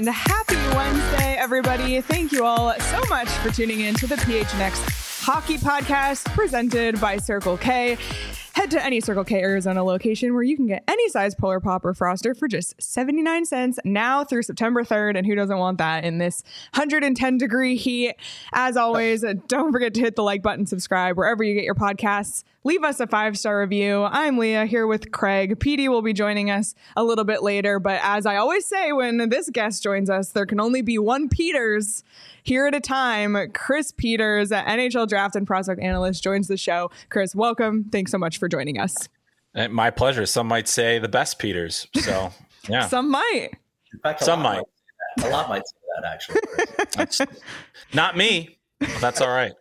and happy Wednesday, everybody. Thank you all so much for tuning in to the PHNX Hockey Podcast presented by Circle K. Head to any Circle K Arizona location where you can get any size Polar Pop or Froster for just 79 cents now through September 3rd. And who doesn't want that in this 110-degree heat? As always, don't forget to hit the like button, subscribe wherever you get your podcasts. Leave us a 5-star review. I'm Leah here with Craig. PD will be joining us a little bit later. But as I always say, when this guest joins us, there can only be one Peters here at a time. Chris Peters, NHL draft and prospect analyst, joins the show. Chris, welcome. Thanks so much for joining us. My pleasure. Some might say the best Peters. So, yeah. Some might. In fact, some might. A lot might say that, actually. Not me. That's all right.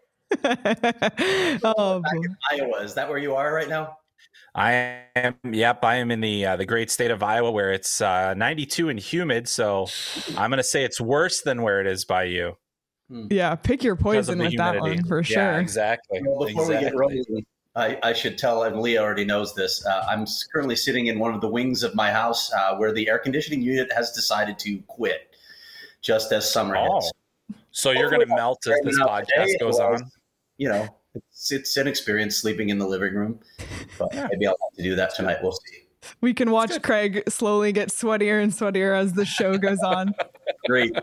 Oh, back in Iowa. Is that where you are right now? I am. Yep. I am in the great state of Iowa where it's 92 and humid. So I'm going to say it's worse than where it is by you. Yeah. Pick your poison with that one for sure. Yeah, exactly. Well, before we get rolling, I should tell, and Leah already knows this, I'm currently sitting in one of the wings of my house where the air conditioning unit has decided to quit just as summer hits. So you're going to melt as this podcast goes on? You know, it's an experience sleeping in the living room, but maybe I'll have to do that tonight. We'll see. We can watch Craig slowly get sweatier and sweatier as the show goes on. Great.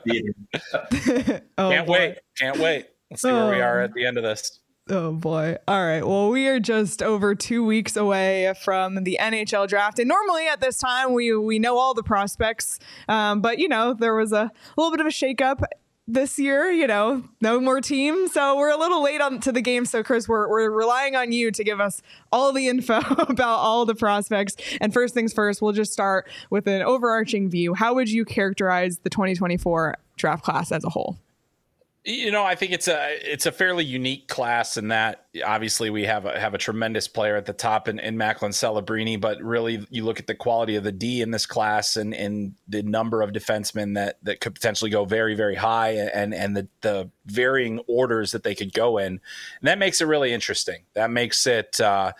Can't wait. Let's see where we are at the end of this. Oh boy. All right. Well, we are just over 2 weeks away from the NHL draft. And normally at this time, we know all the prospects. But, you know, there was a little bit of a shakeup this year, you know, no more teams. So we're a little late on to the game. So Chris, we're relying on you to give us all the info about all the prospects. And first things first, we'll just start with an overarching view. How would you characterize the 2024 draft class as a whole? You know, I think it's a fairly unique class in that obviously we have a tremendous player at the top in Macklin Celebrini, but really you look at the quality of the D in this class and the number of defensemen that could potentially go very, very high and the varying orders that they could go in. And that makes it really interesting. That makes it,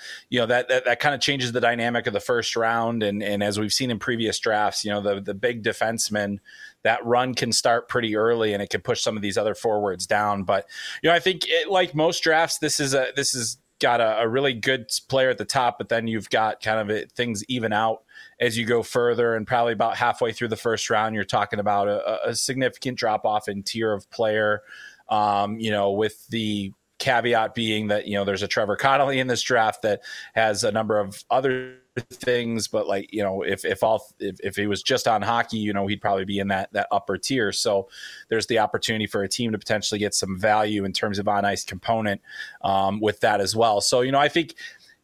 that kind of changes the dynamic of the first round. And as we've seen in previous drafts, you know, the big defensemen, that run can start pretty early and it can push some of these other forwards down. But, you know, I think like most drafts, this is got a really good player at the top, but then you've got kind of things even out as you go further, and probably about halfway through the first round, you're talking about a significant drop off in tier of player, with the caveat being that, you know, there's a Trevor Connolly in this draft that has a number of other things, but like, you know, if he was just on hockey, you know, he'd probably be in that upper tier. So there's the opportunity for a team to potentially get some value in terms of on ice component with that as well. So, you know, I think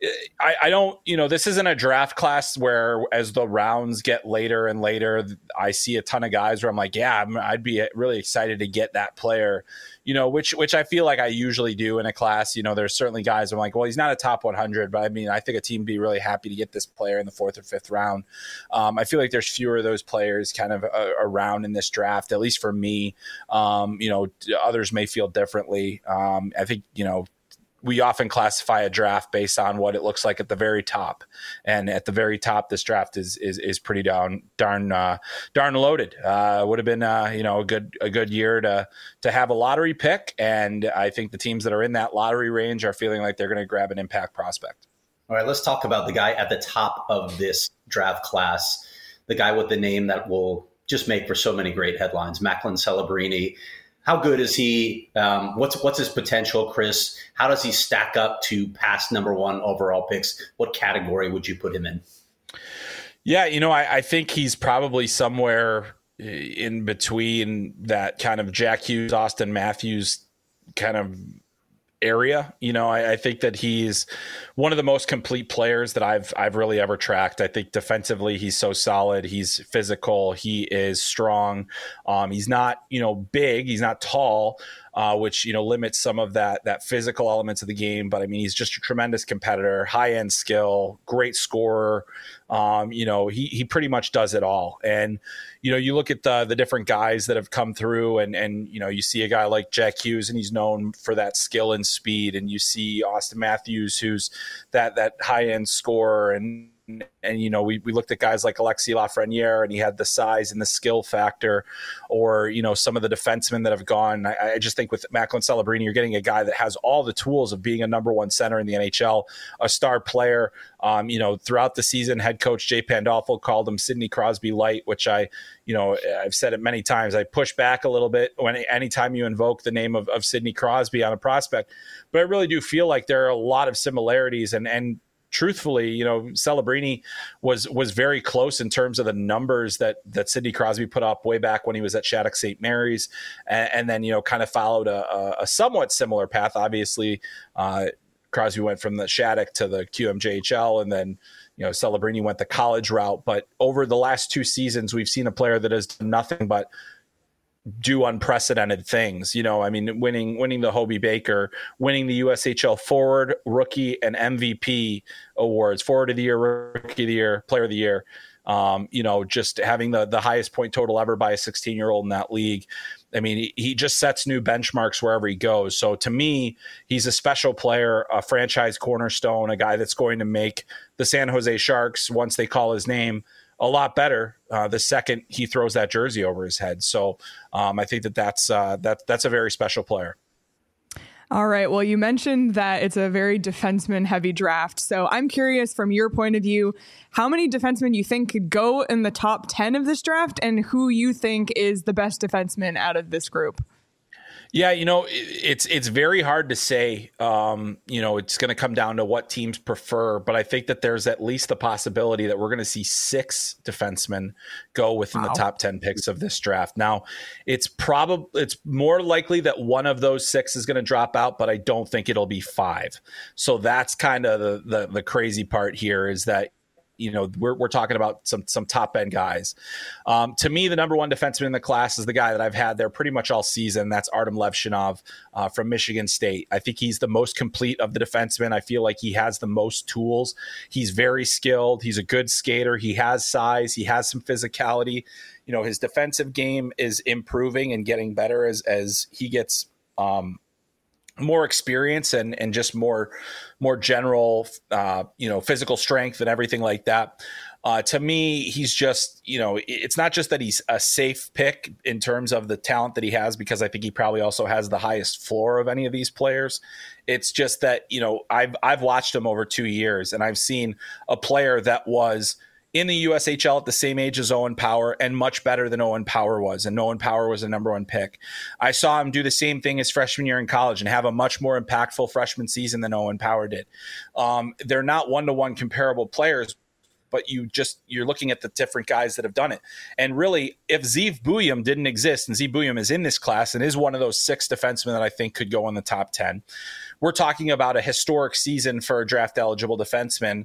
I don't, you know, this isn't a draft class where as the rounds get later and later, I see a ton of guys where I'm like, yeah, I'd be really excited to get that player, you know, which I feel like I usually do in a class. You know, there's certainly guys I'm like, well, he's not a top 100, but I mean, I think a team would be really happy to get this player in the 4th or 5th round. I feel like there's fewer of those players kind of around in this draft, at least for me. You know, others may feel differently. I think, you know, we often classify a draft based on what it looks like at the very top, and at the very top, this draft is pretty darn loaded. Would have been a good year to have a lottery pick, and I think the teams that are in that lottery range are feeling like they're going to grab an impact prospect. All right, let's talk about the guy at the top of this draft class, the guy with the name that will just make for so many great headlines, Macklin Celebrini. How good is he? What's his potential, Chris? How does he stack up to past number 1 overall picks? What category would you put him in? Yeah, you know, I think he's probably somewhere in between that kind of Jack Hughes, Austin Matthews kind of area. You know, I think that he's one of the most complete players that I've really ever tracked. I think defensively, he's so solid. He's physical. He is strong. He's not, you know, big. He's not tall, which, you know, limits some of that physical elements of the game. But I mean, he's just a tremendous competitor, high end skill, great scorer. You know, he pretty much does it all. And, you know, you look at the different guys that have come through and, you know, you see a guy like Jack Hughes and he's known for that skill and speed. And you see Austin Matthews, who's that high end scorer. And and we looked at guys like Alexis Lafreniere, and he had the size and the skill factor, or some of the defensemen that have gone. I just think with Macklin Celebrini, you're getting a guy that has all the tools of being a number one center in the NHL, a star player. Throughout the season, head coach Jay Pandolfo called him Sidney Crosby light, which I've said it many times. I push back a little bit anytime you invoke the name of Sidney Crosby on a prospect, but I really do feel like there are a lot of similarities, and truthfully, Celebrini was very close in terms of the numbers that Sidney Crosby put up way back when he was at Shattuck St. Mary's, and then kind of followed a somewhat similar path. Obviously, Crosby went from the Shattuck to the QMJHL, and then Celebrini went the college route. But over the last 2 seasons, we've seen a player that has done nothing but do unprecedented things. Winning the Hobey Baker, winning the USHL Forward, Rookie, and MVP awards, Forward of the Year, Rookie of the Year, Player of the Year. Just having the highest point total ever by a 16-year-old in that league. I mean, he just sets new benchmarks wherever he goes. So to me, he's a special player, a franchise cornerstone, a guy that's going to make the San Jose Sharks, once they call his name, a lot better the second he throws that jersey over his head. So I think that's a very special player. All right. Well, you mentioned that it's a very defenseman heavy draft. So I'm curious, from your point of view, how many defensemen you think could go in the top 10 of this draft, and who you think is the best defenseman out of this group? Yeah, it's very hard to say. It's going to come down to what teams prefer, but I think that there's at least the possibility that we're going to see 6 defensemen go within the top 10 picks of this draft. Now, it's more likely that one of those 6 is going to drop out, but I don't think it'll be 5. So that's kind of the crazy part here, is that we're talking about some top end guys. To me, the number one defenseman in the class is the guy that I've had there pretty much all season. That's Artem Levshinov from Michigan State. I think he's the most complete of the defensemen. I feel like he has the most tools. He's very skilled. He's a good skater. He has size. He has some physicality. His defensive game is improving and getting better as he gets more experience and just more general, physical strength and everything like that. To me, he's just, it's not just that he's a safe pick in terms of the talent that he has, because I think he probably also has the highest floor of any of these players. It's just that, I've watched him over 2 years, and I've seen a player that was in the USHL at the same age as Owen Power and much better than Owen Power was. And Owen Power was a number one pick. I saw him do the same thing his freshman year in college and have a much more impactful freshman season than Owen Power did. They're not one-to-one comparable players, but you're looking at the different guys that have done it. And really, if Zeev Buium didn't exist, and Zeev Buium is in this class and is one of those 6 defensemen that I think could go in the top 10, we're talking about a historic season for a draft-eligible defenseman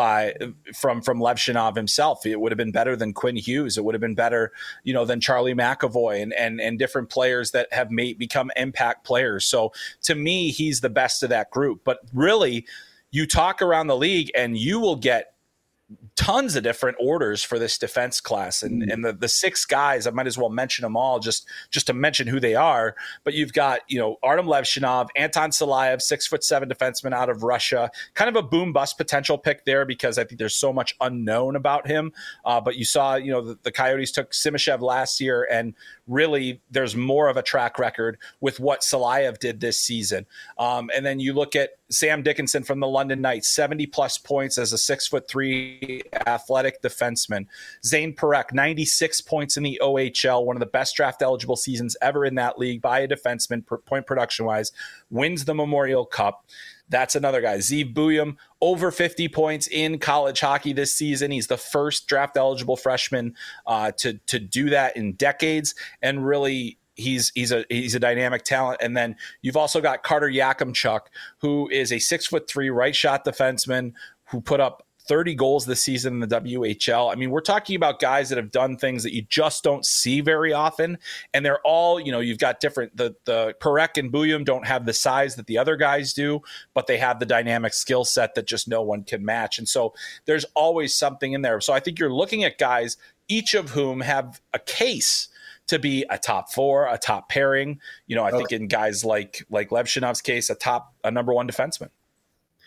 from Levshinov himself. It would have been better than Quinn Hughes. It would have been better, than Charlie McAvoy and different players that have become impact players. So to me, he's the best of that group. But really, you talk around the league and you will get tons of different orders for this defense class, and the 6 guys, I might as well mention them all just to mention who they are. But you've got Artem Levshinov, Anton Salayev, 6'7" defenseman out of Russia, kind of a boom bust potential pick there because I think there's so much unknown about him. But you saw the Coyotes took Simashev last year, and really there's more of a track record with what Salayev did this season. And then you look at Sam Dickinson from the London Knights, 70-plus points as a 6'3" athletic defenseman. Zane Parekh, 96 points in the OHL, one of the best draft-eligible seasons ever in that league by a defenseman, point production-wise, wins the Memorial Cup. That's another guy. Zeev Buium, over 50 points in college hockey this season. He's the first draft-eligible freshman to do that in decades, and really he's a dynamic talent. And then you've also got Carter Yakimchuk, who is a 6'3" right shot defenseman who put up 30 goals this season in the WHL. I mean, we're talking about guys that have done things that you just don't see very often. And they're all, you've got different, the Parekh and Buium don't have the size that the other guys do, but they have the dynamic skill set that just no one can match. And so there's always something in there. So I think you're looking at guys, each of whom have a case to be a top 4, a top pairing. I think in guys like Levshinov's case, a number one defenseman.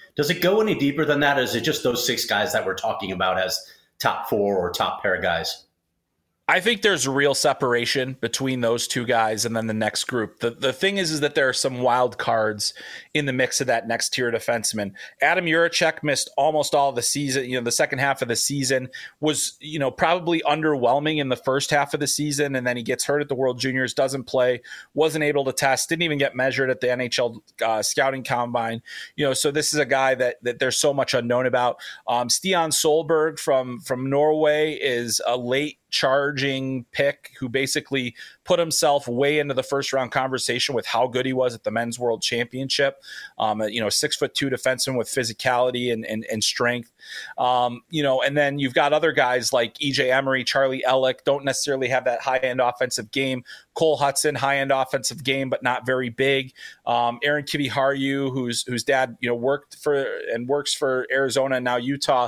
Does it go any deeper than that? Or is it just those 6 guys that we're talking about as top 4 or top pair of guys? I think there's real separation between those 2 guys and then the next group. The thing is that there are some wild cards in the mix of that next tier defenseman. Adam Juracek missed almost all of the season. The second half of the season was, probably underwhelming in the first half of the season. And then he gets hurt at the World Juniors, doesn't play, wasn't able to test, didn't even get measured at the NHL scouting combine. So this is a guy that there's so much unknown about. Stian Solberg from Norway is a late charging pick who basically put himself way into the first round conversation with how good he was at the Men's World Championship. 6'2" defenseman with physicality and strength. And then you've got other guys like EJ Emery, Charlie Ellick, don't necessarily have that high end offensive game. Cole Hudson, high end offensive game, but not very big. Aaron Kiviharju, whose dad worked for and works for Arizona and now Utah.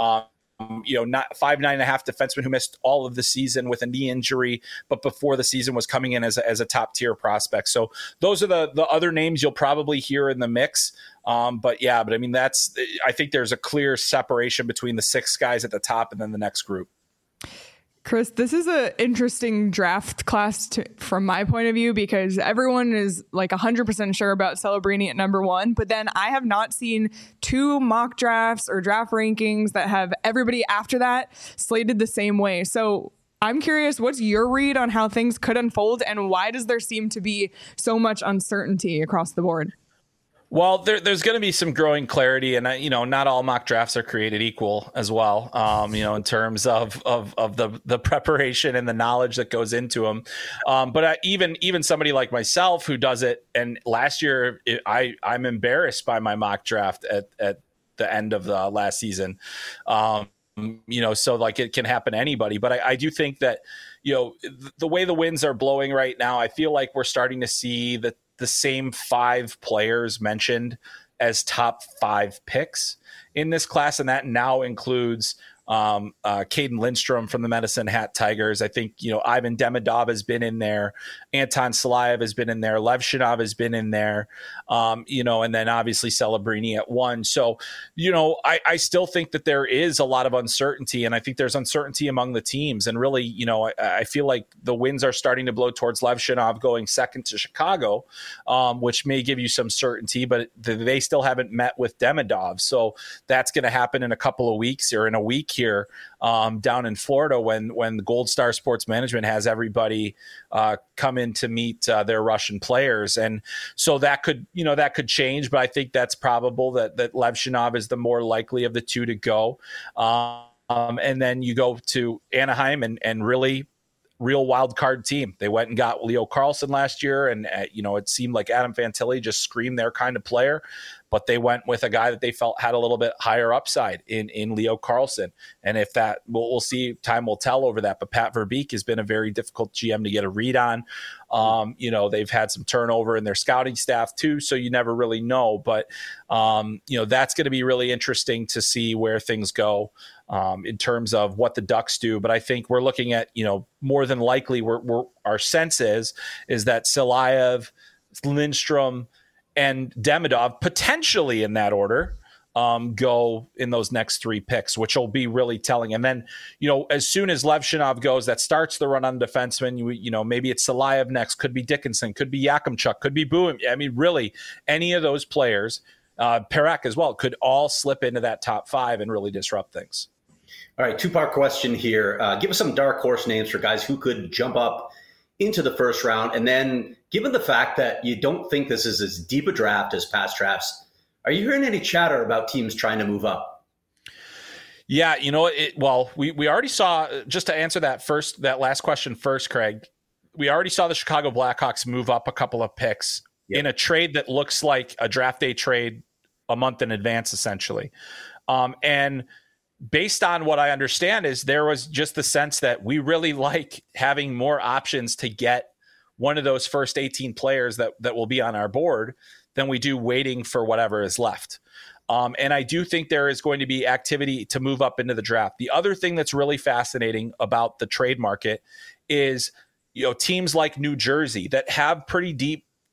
Not 5'9.5" defenseman who missed all of the season with a knee injury, but before the season was coming in as a top tier prospect. So those are the other names you'll probably hear in the mix. I think there's a clear separation between the 6 guys at the top and then the next group. Chris, this is an interesting draft class from my point of view, because everyone is like 100% sure about Celebrini at number 1. But then I have not seen 2 mock drafts or draft rankings that have everybody after that slated the same way. So I'm curious, what's your read on how things could unfold, and why does there seem to be so much uncertainty across the board? Well, there's going to be some growing clarity, and not all mock drafts are created equal as well. In terms of the preparation and the knowledge that goes into them. But even somebody like myself who does it, and last year I'm embarrassed by my mock draft at the end of the last season. So like it can happen to anybody, but I do think that the way the winds are blowing right now, I feel like we're starting to see the same 5 players mentioned as top 5 picks in this class. And that now includes Caden Lindstrom from the Medicine Hat Tigers. I think, Ivan Demidov has been in there. Anton Salayev has been in there. Lev Shinov has been in there. And then obviously Celebrini at 1. So, I still think that there is a lot of uncertainty, and I think there's uncertainty among the teams. And really, I feel like the winds are starting to blow towards Lev Shinov going second to Chicago, which may give you some certainty, but they still haven't met with Demidov. So that's going to happen in a couple of weeks or in a week here down in Florida when the Gold Star Sports Management has everybody come in to meet their Russian players. And so that could change, but I think that's probable that Lev Shinov is the more likely of the 2 to go. And then you go to Anaheim and really real wild card team. They went and got Leo Carlsson last year, and it seemed like Adam Fantilli just screamed their kind of player, but they went with a guy that they felt had a little bit higher upside in Leo Carlsson. And if that, we'll see, time will tell over that. But Pat Verbeek has been a very difficult GM to get a read on. They've had some turnover in their scouting staff too, so you never really know. But that's going to be really interesting to see where things go in terms of what the Ducks do. But I think we're looking at, more than likely, our sense is that Salayev, Lindstrom, and Demidov, potentially in that order, go in those next 3 picks, which will be really telling. And then, as soon as Lev Shinov goes, that starts the run on defensemen. Maybe it's Salayev next, could be Dickinson, could be Yakimchuk, could be Boom. I mean, really, any of those players, Perek as well, could all slip into that top 5 and really disrupt things. All right, 2-part question here. Give us some dark horse names for guys who could jump up into the first round. And then, given the fact that you don't think this is as deep a draft as past drafts, are you hearing any chatter about teams trying to move up? Yeah, we already saw, just to answer that last question first, Craig, we already saw the Chicago Blackhawks move up a couple of picks in a trade that looks like a draft day trade a month in advance, essentially. And based on what I understand is there was just the sense that we really like having more options to get one of those first 18 players that will be on our board than we do waiting for whatever is left. And I do think there is going to be activity to move up into the draft. The other thing that's really fascinating about the trade market is, teams like New Jersey that have pretty deep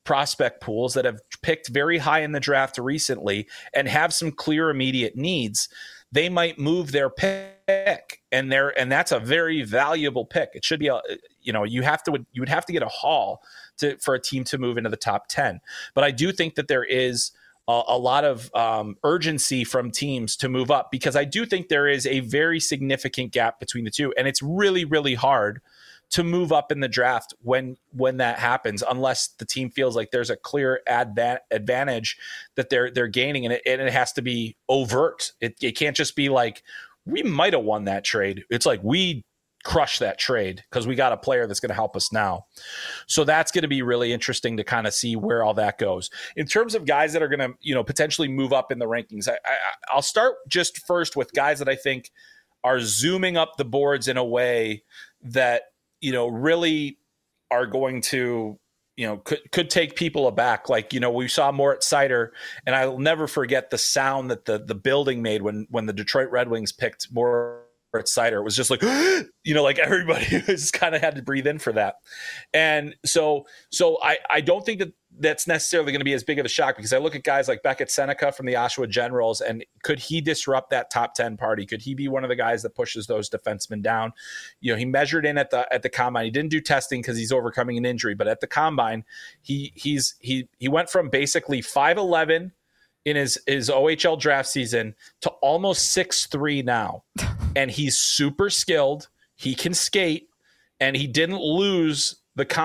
prospect pools that have picked very high in the draft recently and have some clear immediate needs, they might move their pick, and that's a very valuable pick. It should be you would have to get a haul for a team to move into the top 10. But I do think that there is a lot of urgency from teams to move up, because I do think there is a very significant gap between the two, and it's really, really hard to move up in the draft when that happens, unless the team feels like there's a clear advantage that they're gaining, and it has to be overt. It can't just be like, we might have won that trade. It's like, we crushed that trade because we got a player that's going to help us now. So that's going to be really interesting to kind of see where all that goes. In terms of guys that are going to, potentially move up in the rankings, I'll start just first with guys that I think are zooming up the boards in a way that, really are going to, could take people aback. Like, we saw Moritz Seider, and I'll never forget the sound that the building made when the Detroit Red Wings picked Moritz Seider. It was just like, like everybody just kind of had to breathe in for that. And so I don't think that's necessarily going to be as big of a shock, because I look at guys like Beckett Seneca from the Oshawa Generals, and could he disrupt that top 10 party? Could he be one of the guys that pushes those defensemen down? He measured in at the combine. He didn't do testing because he's overcoming an injury, but at the combine, he went from basically 5'11" in his OHL draft season to almost 6'3" now. And he's super skilled. He can skate, and he didn't lose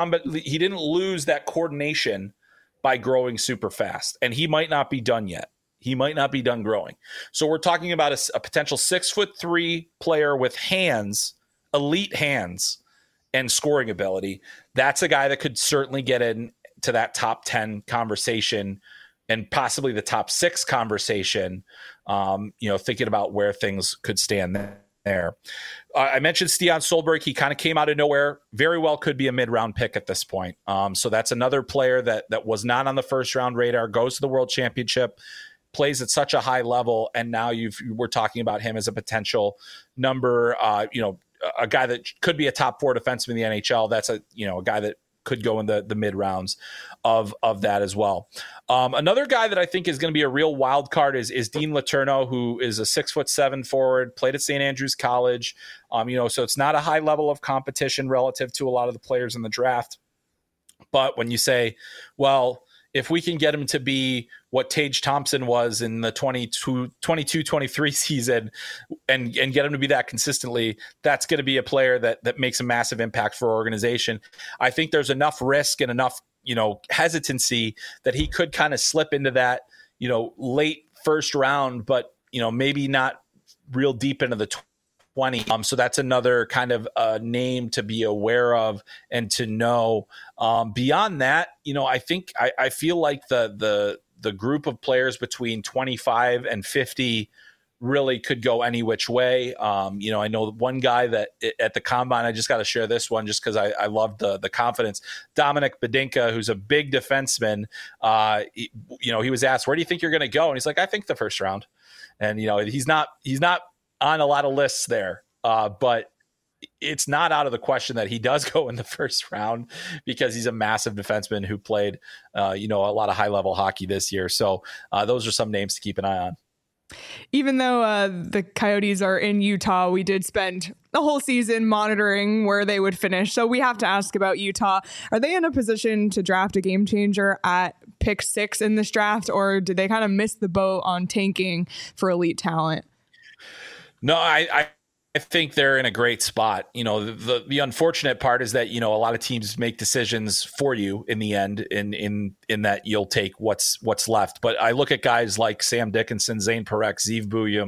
he didn't lose that coordination by growing super fast. And he might not be done yet. He might not be done growing. So we're talking about a potential 6'3" player with hands, elite hands, and scoring ability. That's a guy that could certainly get into that top 10 conversation, and possibly the top 6 conversation, thinking about where things could stand there. I mentioned Stian Solberg. He kind of came out of nowhere. Very well could be a mid-round pick at this point. So that's another player that was not on the first-round radar, goes to the World Championship, plays at such a high level, and now we're talking about him as a potential number, a guy that could be a top 4 defenseman in the NHL. That's a guy that could go in the mid rounds of that as well. Another guy that I think is going to be a real wild card is Dean Letourneau, who is a 6'7" forward, played at St. Andrews College. So it's not a high level of competition relative to a lot of the players in the draft. But when you say, well, if we can get him to be what Tage Thompson was in the 22-23 season and get him to be that consistently, that's going to be a player that makes a massive impact for our organization. I think there's enough risk and enough, hesitancy that he could kind of slip into that, late first round, but, maybe not real deep into the 20. So that's another kind of name to be aware of and to know. Beyond that, I think I feel like the group of players between 25 and 50 really could go any which way. I know one guy that at the combine, I just got to share this one just because I love the confidence. Dominic Bedinka, who's a big defenseman, he was asked, where do you think you're going to go? And he's like, I think the first round. And, he's not on a lot of lists there, but it's not out of the question that he does go in the first round, because he's a massive defenseman who played, a lot of high level hockey this year. So those are some names to keep an eye on. Even though the Coyotes are in Utah, we did spend the whole season monitoring where they would finish. So we have to ask about Utah. Are they in a position to draft a game changer at pick 6 in this draft, or did they kind of miss the boat on tanking for elite talent? No, I think they're in a great spot. The unfortunate part is that, a lot of teams make decisions for you in the end, in that you'll take what's left. But I look at guys like Sam Dickinson, Zane Parekh, Zeev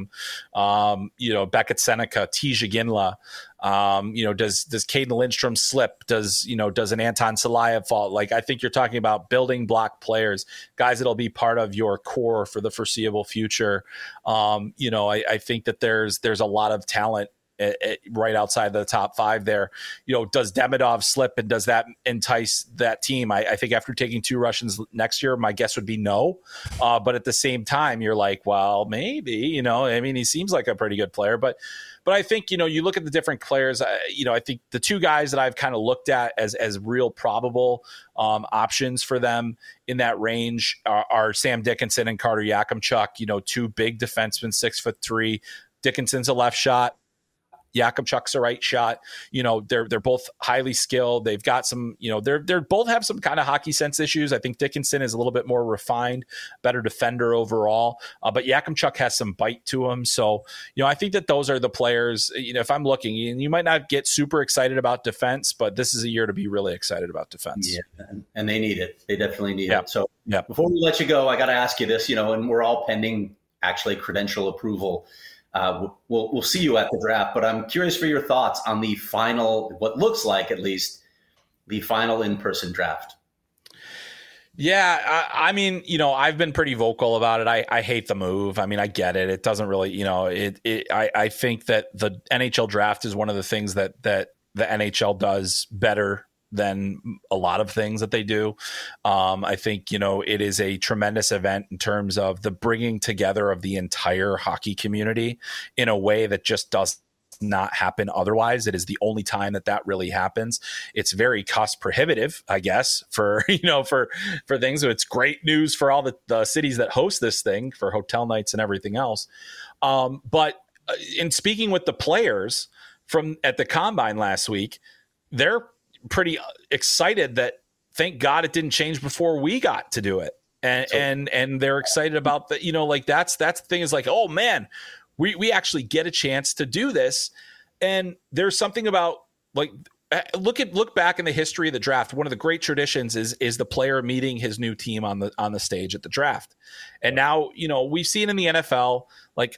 Buium, Beckett Seneca, Tija Ginla. Does Caden Lindstrom slip? Does an Anton Salayev fall? Like, I think you're talking about building block players, guys that'll be part of your core for the foreseeable future. I think that there's a lot of talent right outside the top 5 there. Does Demidov slip, and does that entice that team? I think after taking 2 Russians next year, my guess would be no. But at the same time, you're like, well, maybe, he seems like a pretty good player, but I think, you look at the different players, I think the 2 guys that I've kind of looked at as real probable options for them in that range are Sam Dickinson and Carter Yakimchuk, 2 big defensemen, 6'3". Dickinson's a left shot. Yakimchuk's a right shot. They're both highly skilled. They've got some, they're both have some kind of hockey sense issues. I think Dickinson is a little bit more refined, better defender overall. But Yakimchuk has some bite to him. So, I think that those are the players, if I'm looking, and you might not get super excited about defense, but this is a year to be really excited about defense. Yeah. And they need it. They definitely need it. So before we let you go, I got to ask you this, and we're all pending actually credential approval. We'll see you at the draft, but I'm curious for your thoughts on the final, what looks like at least the final in-person draft. Yeah, I've been pretty vocal about it. I hate the move. I get it. It doesn't really, I think that the NHL draft is one of the things that the NHL does better than a lot of things that they do. I think, it is a tremendous event in terms of the bringing together of the entire hockey community in a way that just does not happen otherwise. It is the only time that really happens. It's very cost prohibitive, I guess, for things. So it's great news for all the cities that host this thing, for hotel nights and everything else. But in speaking with the players at the Combine last week, they're pretty excited that, thank God it didn't change before we got to do it. And they're excited about that, that's the thing, is like, oh man, we actually get a chance to do this. And there's something about, like, look back in the history of the draft. One of the great traditions is the player meeting his new team on the stage at the draft. And now, we've seen in the NFL, like,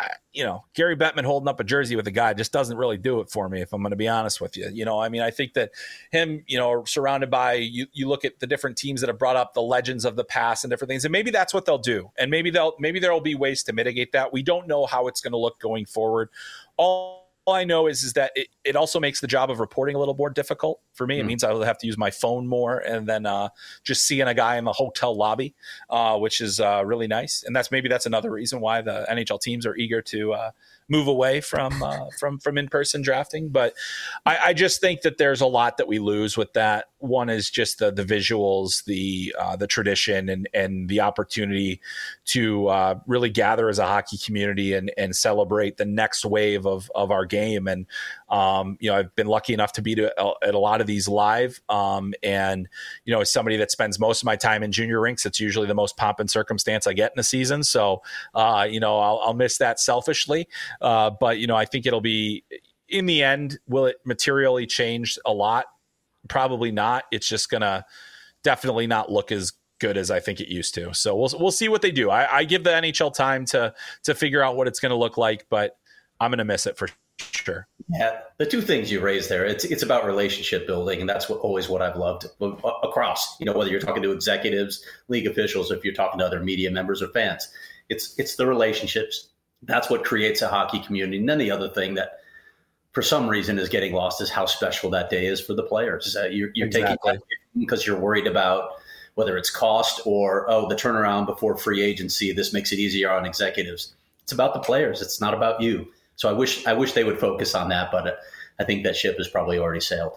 Gary Bettman holding up a jersey with a guy just doesn't really do it for me, if I'm going to be honest with you. I think that him, surrounded by, you look at the different teams that have brought up the legends of the past and different things, and maybe that's what they'll do. And maybe there'll be ways to mitigate that. We don't know how it's going to look going forward. All I know is that it also makes the job of reporting a little more difficult for me. It means I will have to use my phone more, and then just seeing a guy in the hotel lobby, which is really nice. And that's another reason why the NHL teams are eager to move away from in-person drafting. But I just think that there's a lot that we lose with that. One is just the visuals, the tradition, and the opportunity to really gather as a hockey community and celebrate the next wave of our game. And I've been lucky enough to be at a lot of these live. And as somebody that spends most of my time in junior rinks, it's usually the most pomp and circumstance I get in a season. So I'll miss that selfishly. But I think it'll be, in the end, will it materially change a lot? Probably not. It's just gonna definitely not look as good as I think it used to. So we'll see what they do. I give the NHL time to figure out what it's going to look like, but I'm going to miss it for sure. Yeah, the 2 things you raised there, it's about relationship building, and that's always what I've loved across. Whether you're talking to executives, league officials, or if you're talking to other media members or fans, it's the relationships. That's what creates a hockey community. And then the other thing that, for some reason, is getting lost is how special that day is for the players. You're exactly. taking that because you're worried about whether it's cost or, the turnaround before free agency. This makes it easier on executives. It's about the players. It's not about you. So I wish they would focus on that, but I think that ship has probably already sailed.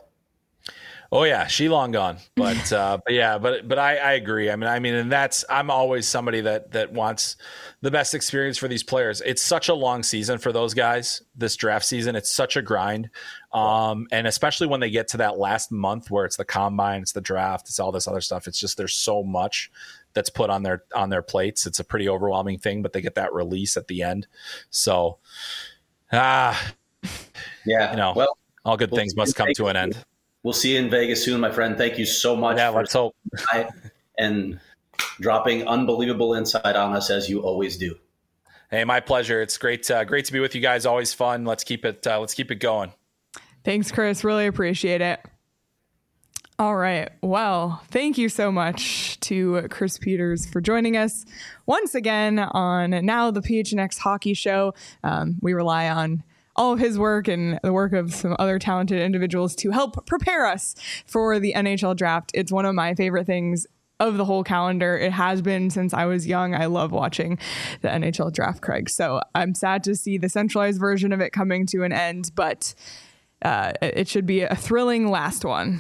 Oh yeah, she long gone. But I agree. And I'm always somebody that wants the best experience for these players. It's such a long season for those guys. This draft season, it's such a grind. And especially when they get to that last month where it's the combine, it's the draft, it's all this other stuff. It's just, there's so much that's put on their plates. It's a pretty overwhelming thing, but they get that release at the end. So, well, all good things must come to an end. We'll see you in Vegas soon, my friend. Thank you so much. Yeah, let's hope. And dropping unbelievable insight on us, as you always do. Hey, my pleasure. It's great to be with you guys. Always fun. Let's keep it going. Thanks, Chris. Really appreciate it. All right. Well, thank you so much to Chris Peters for joining us once again on now the PHNX Hockey Show. We rely on all of his work and the work of some other talented individuals to help prepare us for the NHL draft. It's one of my favorite things of the whole calendar. It has been since I was young. I love watching the NHL draft, Craig. So I'm sad to see the centralized version of it coming to an end, but it should be a thrilling last one.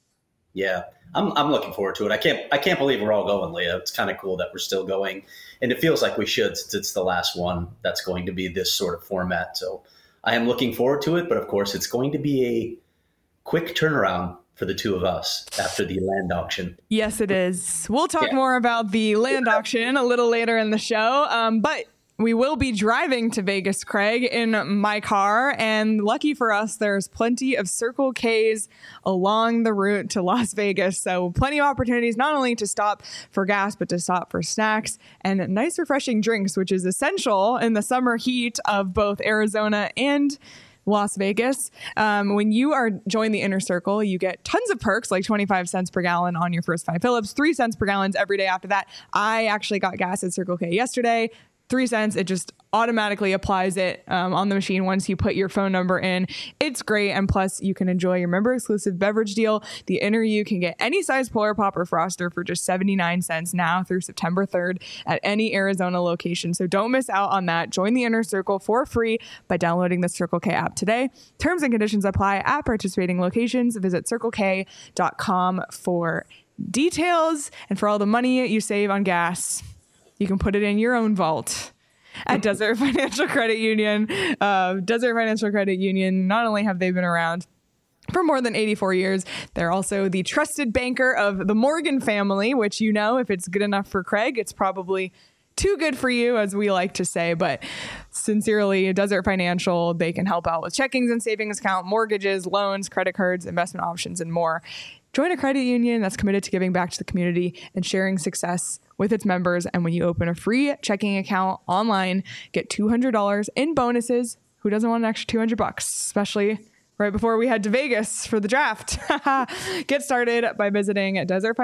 Yeah, I'm looking forward to it. I can't believe we're all going, Leah. It's kind of cool that we're still going, and it feels like we should, since it's the last one that's going to be this sort of format. So I am looking forward to it, but of course it's going to be a quick turnaround for the two of us after the land auction. Yes, it is. We'll talk more about the land auction a little later in the show, but we will be driving to Vegas, Craig, in my car. And lucky for us, there's plenty of Circle K's along the route to Las Vegas. So plenty of opportunities not only to stop for gas, but to stop for snacks and nice, refreshing drinks, which is essential in the summer heat of both Arizona and Las Vegas. When you are join the Inner Circle, you get tons of perks like 25 cents per gallon on your first 5 fill-ups, 3 cents per gallon every day after that. I actually got gas at Circle K yesterday. 3 cents. It just automatically applies it on the machine once you put your phone number in. It's great. And plus, you can enjoy your member exclusive beverage deal. The Inner You can get any size Polar Pop or Froster for just 79 cents now through September 3rd at any Arizona location. So don't miss out on that. Join the Inner Circle for free by downloading the Circle K app today. Terms and conditions apply at participating locations. Visit CircleK.com for details and for all the money you save on gas. You can put it in your own vault at Desert Financial Credit Union. Desert Financial Credit Union, not only have they been around for more than 84 years, they're also the trusted banker of the Morgan family, which, you know, if it's good enough for Craig, it's probably too good for you, as we like to say. But sincerely, Desert Financial, they can help out with checkings and savings account, mortgages, loans, credit cards, investment options, and more. Join a credit union that's committed to giving back to the community and sharing success with its members. And when you open a free checking account online, get $200 in bonuses. Who doesn't want an extra $200, especially right before we head to Vegas for the draft? Get started by visiting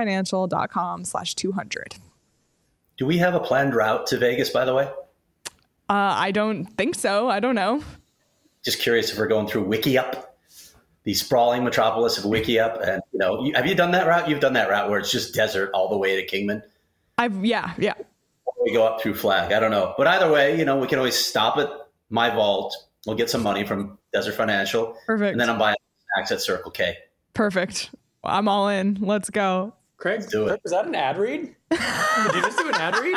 desertfinancial.com/200. Do we have a planned route to Vegas, by the way? I don't think so. I don't know. Just curious if we're going through Wickiup, the sprawling metropolis of Wickiup. And, you know, have you done that route? You've done that route where it's just desert all the way to Kingman? Yeah. We go up through Flag. I don't know. But either way, you know, we can always stop at my vault. We'll get some money from Desert Financial. Perfect. And then I'm buying snacks at Circle K. Perfect. I'm all in. Let's go. Craig, do it. Was that an ad read? Did you just do an ad read?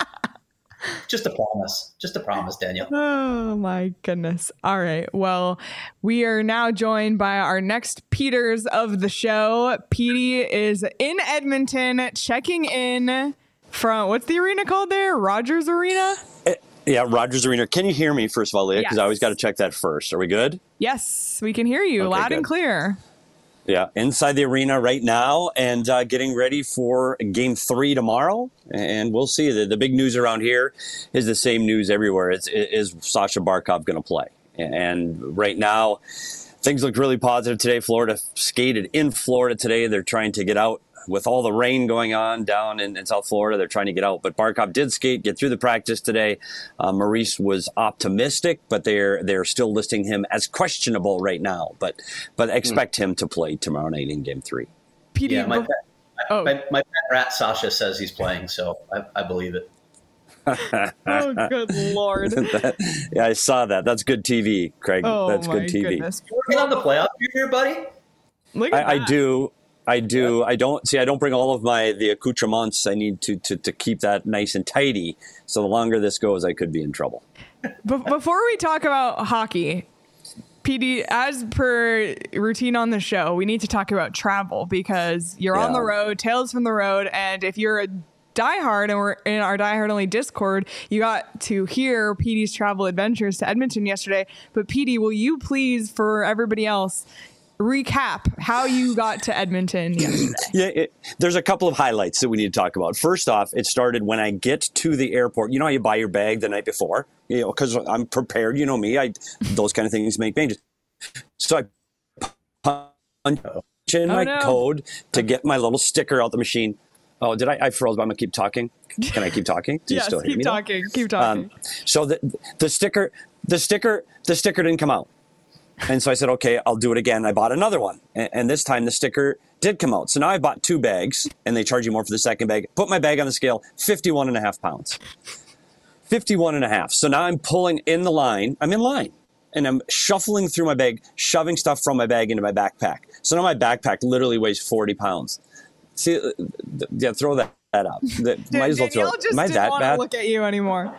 Just a promise. Just a promise, Daniel. Oh, my goodness. All right. Well, we are now joined by our next Peters of the show. Petey is in Edmonton checking in from, what's the arena called there? Rogers Arena? Yeah, Rogers Arena. Can you hear me, first of all, Leah? Because Yes. I always got to check that first. Are we good? Yes, we can hear you Okay, loud good. and clear. Yeah, inside the arena right now and getting ready for Game 3 tomorrow. And we'll see. The big news around here is the same news everywhere. Is Sasha Barkov going to play? And right now, things look really positive today. Florida skated in Florida today. They're trying to get out. With all the rain going on down in South Florida, they're trying to get out. But Barkov did skate, get through the practice today. Maurice was optimistic, but they're still listing him as questionable right now. But expect him to play tomorrow night in Game 3. Petey, Yeah, my pet rat Sasha says he's playing, so I believe it. oh, good Lord. Yeah, I saw that. That's good TV, Craig. Oh, That's good TV. Goodness. You working on the playoff here, buddy? Look at I that. do. I don't bring all of the accoutrements. I need to keep that nice and tidy. So the longer this goes, I could be in trouble. Before we talk about hockey, PD, as per routine on the show, we need to talk about travel because you're on the road, Tales from the Road, and if you're a diehard and we're in our diehard only Discord, you got to hear PD's travel adventures to Edmonton yesterday. But PD, will you please, for everybody else, recap how you got to Edmonton yesterday? Yeah, there's a couple of highlights that we need to talk about. First off, it started when I get to the airport. You know how you buy your bag the night before? You know, because I'm prepared. You know me. Those kind of things make changes. So I punch in my code to get my little sticker out the machine. Oh, I froze, but I'm going to keep talking. Can I keep talking? Do you Yes, still hear keep me? talking. Keep talking. So the sticker, the sticker didn't come out. And so I said, okay, I'll do it again. I bought another one. And this time the sticker did come out. So now I bought 2 bags, and they charge you more for the second bag. Put my bag on the scale, 51.5 pounds. 51.5. So now I'm pulling in the line. I'm in line. And I'm shuffling through my bag, shoving stuff from my bag into my backpack. So now my backpack literally weighs 40 pounds. See, yeah, throw that up. Dude, might as well throw it. Am I that want bad? to look at you anymore.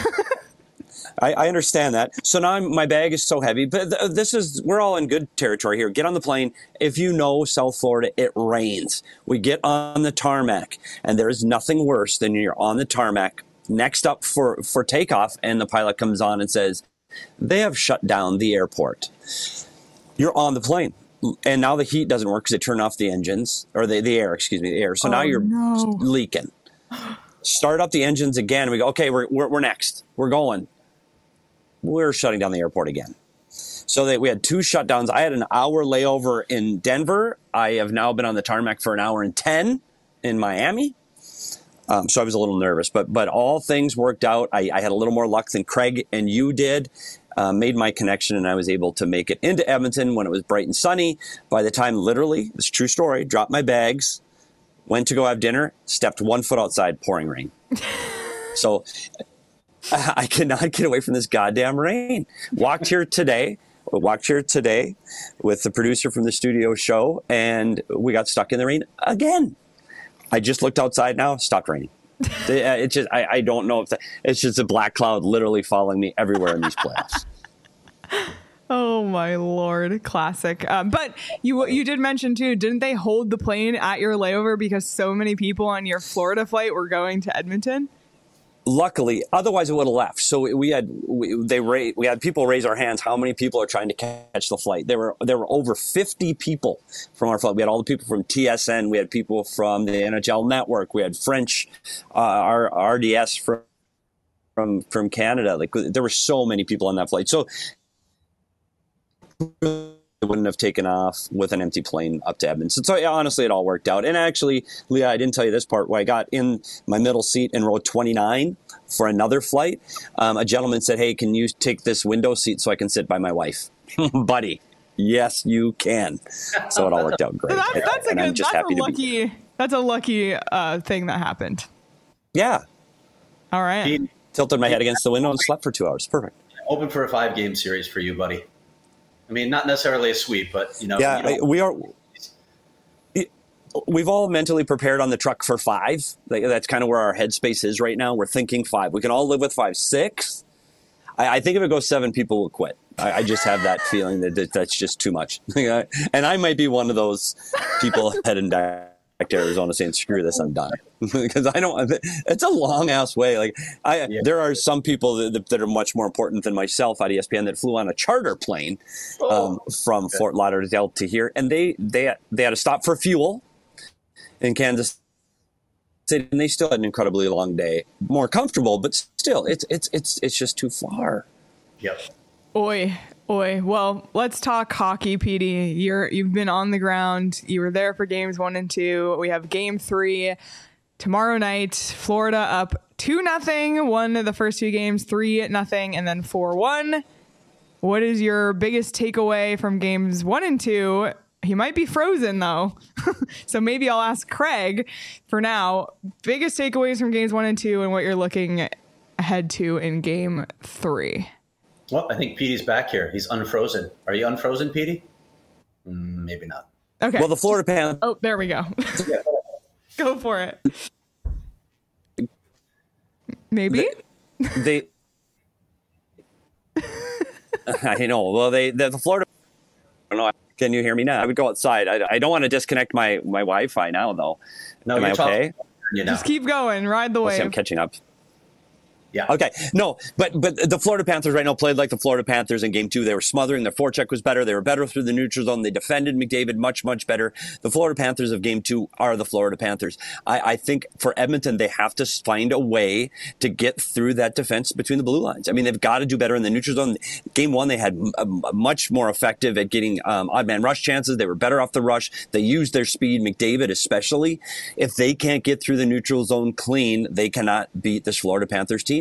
I understand that. So now my bag is so heavy, but we're all in good territory here. Get on the plane. If you know South Florida, it rains. We get on the tarmac, and there is nothing worse than you're on the tarmac next up for takeoff, and the pilot comes on and says, they have shut down the airport. You're on the plane. And now the heat doesn't work because they turn off the engines, or the air. So now you're leaking. Start up the engines again. We go, okay, we're next. We're going. We're shutting down the airport again. So we had 2 shutdowns. I had an hour layover in Denver. I have now been on the tarmac for an hour and 10 in Miami. So I was a little nervous, but all things worked out. I had a little more luck than Craig and you did. Made my connection, and I was able to make it into Edmonton when it was bright and sunny. By the time, literally, it's a true story, dropped my bags, went to go have dinner, stepped 1 foot outside, pouring rain. So I could not get away from this goddamn rain. Walked here today with the producer from the studio show, and we got stuck in the rain again. I just looked outside now, stopped raining. It's just, I don't know if it's just a black cloud literally following me everywhere in these playoffs. Oh my Lord. Classic. But you did mention too, didn't they hold the plane at your layover because so many people on your Florida flight were going to Edmonton? Luckily, otherwise it would have left. So we had people raise our hands. How many people are trying to catch the flight? There were over 50 people from our flight. We had all the people from TSN. We had people from the NHL Network. We had French, our RDS from Canada. Like, there were so many people on that flight. So I wouldn't have taken off with an empty plane up to Edmonton. So yeah, honestly, it all worked out. And actually, Leah, I didn't tell you this part. Where I got in my middle seat in row 29 for another flight, a gentleman said, hey, can you take this window seat so I can sit by my wife? Buddy, yes, you can. So it all worked out great. That's a lucky thing that happened. Yeah. All right. Tilted my head against the window and slept for 2 hours. Perfect. Open for a 5-game series for you, buddy. I mean, not necessarily a sweep, but, Yeah, we've all mentally prepared on the truck for 5. That's kind of where our headspace is right now. We're thinking 5. We can all live with 5. 6, I think if it goes 7, people will quit. I just have that feeling that's just too much. And I might be one of those people heading back to Arizona saying, screw this, I'm done. Because it's a long ass way. There are some people that are much more important than myself at ESPN that flew on a charter plane from Fort Lauderdale to here. And they had to stop for fuel in Kansas City, and they still had an incredibly long day. More comfortable, but still, it's just too far. Yep. Oi. Well, let's talk hockey, PD. You've been on the ground. You were there for games 1 and 2. We have game 3 tomorrow night. Florida up 2-0. Won the first 2 games, 3-0, and then 4-1. What is your biggest takeaway from games 1 and 2? He might be frozen though. So maybe I'll ask Craig for now. Biggest takeaways from games 1 and 2 and what you're looking ahead to in game 3. Well, I think Petey's back here. He's unfrozen. Are you unfrozen, Petey? Maybe not. Okay. Well, the Florida Panthers. Oh, there we go. Yeah. Go for it. Maybe. They I know. Well, the Florida. I don't know. Can you hear me now? I would go outside. I don't want to disconnect my Wi-Fi now, though. No, am I okay? Just keep going. Ride the wave. I'm catching up. Yeah. Okay. No, but the Florida Panthers right now played like the Florida Panthers in game 2. They were smothering. Their forecheck was better. They were better through the neutral zone. They defended McDavid much, much better. The Florida Panthers of game 2 are the Florida Panthers. I think for Edmonton, they have to find a way to get through that defense between the blue lines. I mean, they've got to do better in the neutral zone. Game 1, they had much more effective at getting odd man rush chances. They were better off the rush. They used their speed, McDavid especially. If they can't get through the neutral zone clean, they cannot beat this Florida Panthers team.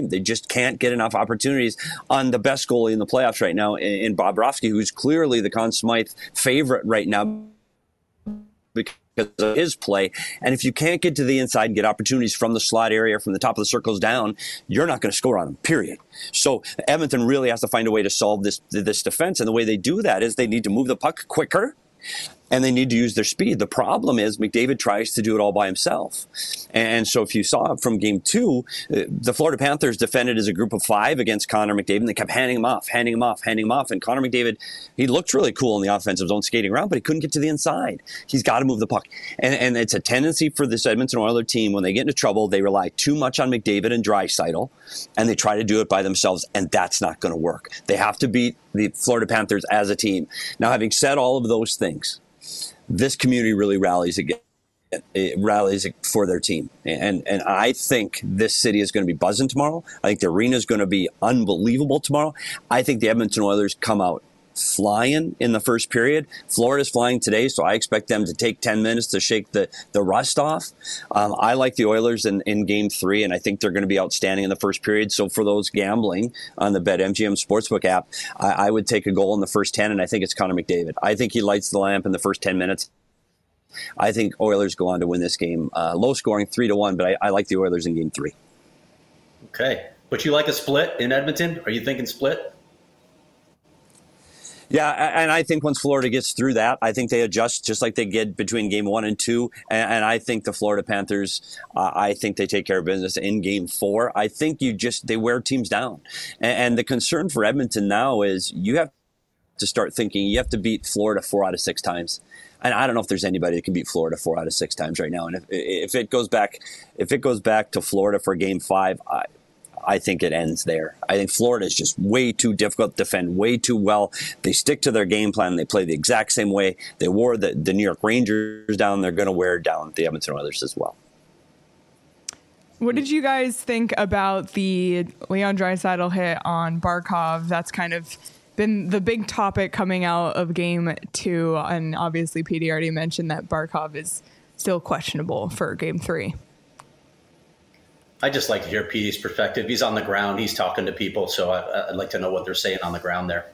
team. They just can't get enough opportunities on the best goalie in the playoffs right now in Bobrovsky, who's clearly the Conn Smythe favorite right now because of his play. And if you can't get to the inside and get opportunities from the slot area, from the top of the circles down, you're not going to score on them, period. So Edmonton really has to find a way to solve this defense. And the way they do that is they need to move the puck quicker, and they need to use their speed. The problem is McDavid tries to do it all by himself. And so if you saw from game 2, the Florida Panthers defended as a group of 5 against Connor McDavid, and they kept handing him off. And Connor McDavid, he looked really cool in the offensive zone skating around, but he couldn't get to the inside. He's got to move the puck. And it's a tendency for this Edmonton Oilers team, when they get into trouble, they rely too much on McDavid and Draisaitl, and they try to do it by themselves, and that's not going to work. They have to beat the Florida Panthers as a team. Now, having said all of those things, this community really rallies again. It rallies for their team. And I think this city is going to be buzzing tomorrow. I think the arena is going to be unbelievable tomorrow. I think the Edmonton Oilers come out flying in the first period. Florida's flying today, so I expect them to take 10 minutes to shake the rust off. I like the Oilers in game 3, and I think they're going to be outstanding in the first period. So for those gambling on the BetMGM Sportsbook app, I would take a goal in the first 10, and I think it's Connor McDavid. I think he lights the lamp in the first 10 minutes. I think Oilers go on to win this game. Low scoring, 3-1, but I like the Oilers in game 3. Okay. But you like a split in Edmonton? Are you thinking split? Yeah, and I think once Florida gets through that, I think they adjust just like they did between game 1 and 2. And I think the Florida Panthers, I think they take care of business in game 4. I think they wear teams down. And the concern for Edmonton now is you have to start thinking you have to beat Florida 4 out of 6 times. And I don't know if there's anybody that can beat Florida 4 out of 6 times right now. And if it goes back to Florida for game 5, I think it ends there. I think Florida is just way too difficult to defend, way too well. They stick to their game plan. They play the exact same way. They wore the New York Rangers down. They're going to wear down the Edmonton Oilers as well. What did you guys think about the Leon Draisaitl hit on Barkov? That's kind of been the big topic coming out of game 2. And obviously, PD already mentioned that Barkov is still questionable for game 3. I just like to hear Petey's perspective. He's on the ground. He's talking to people. So I'd like to know what they're saying on the ground there.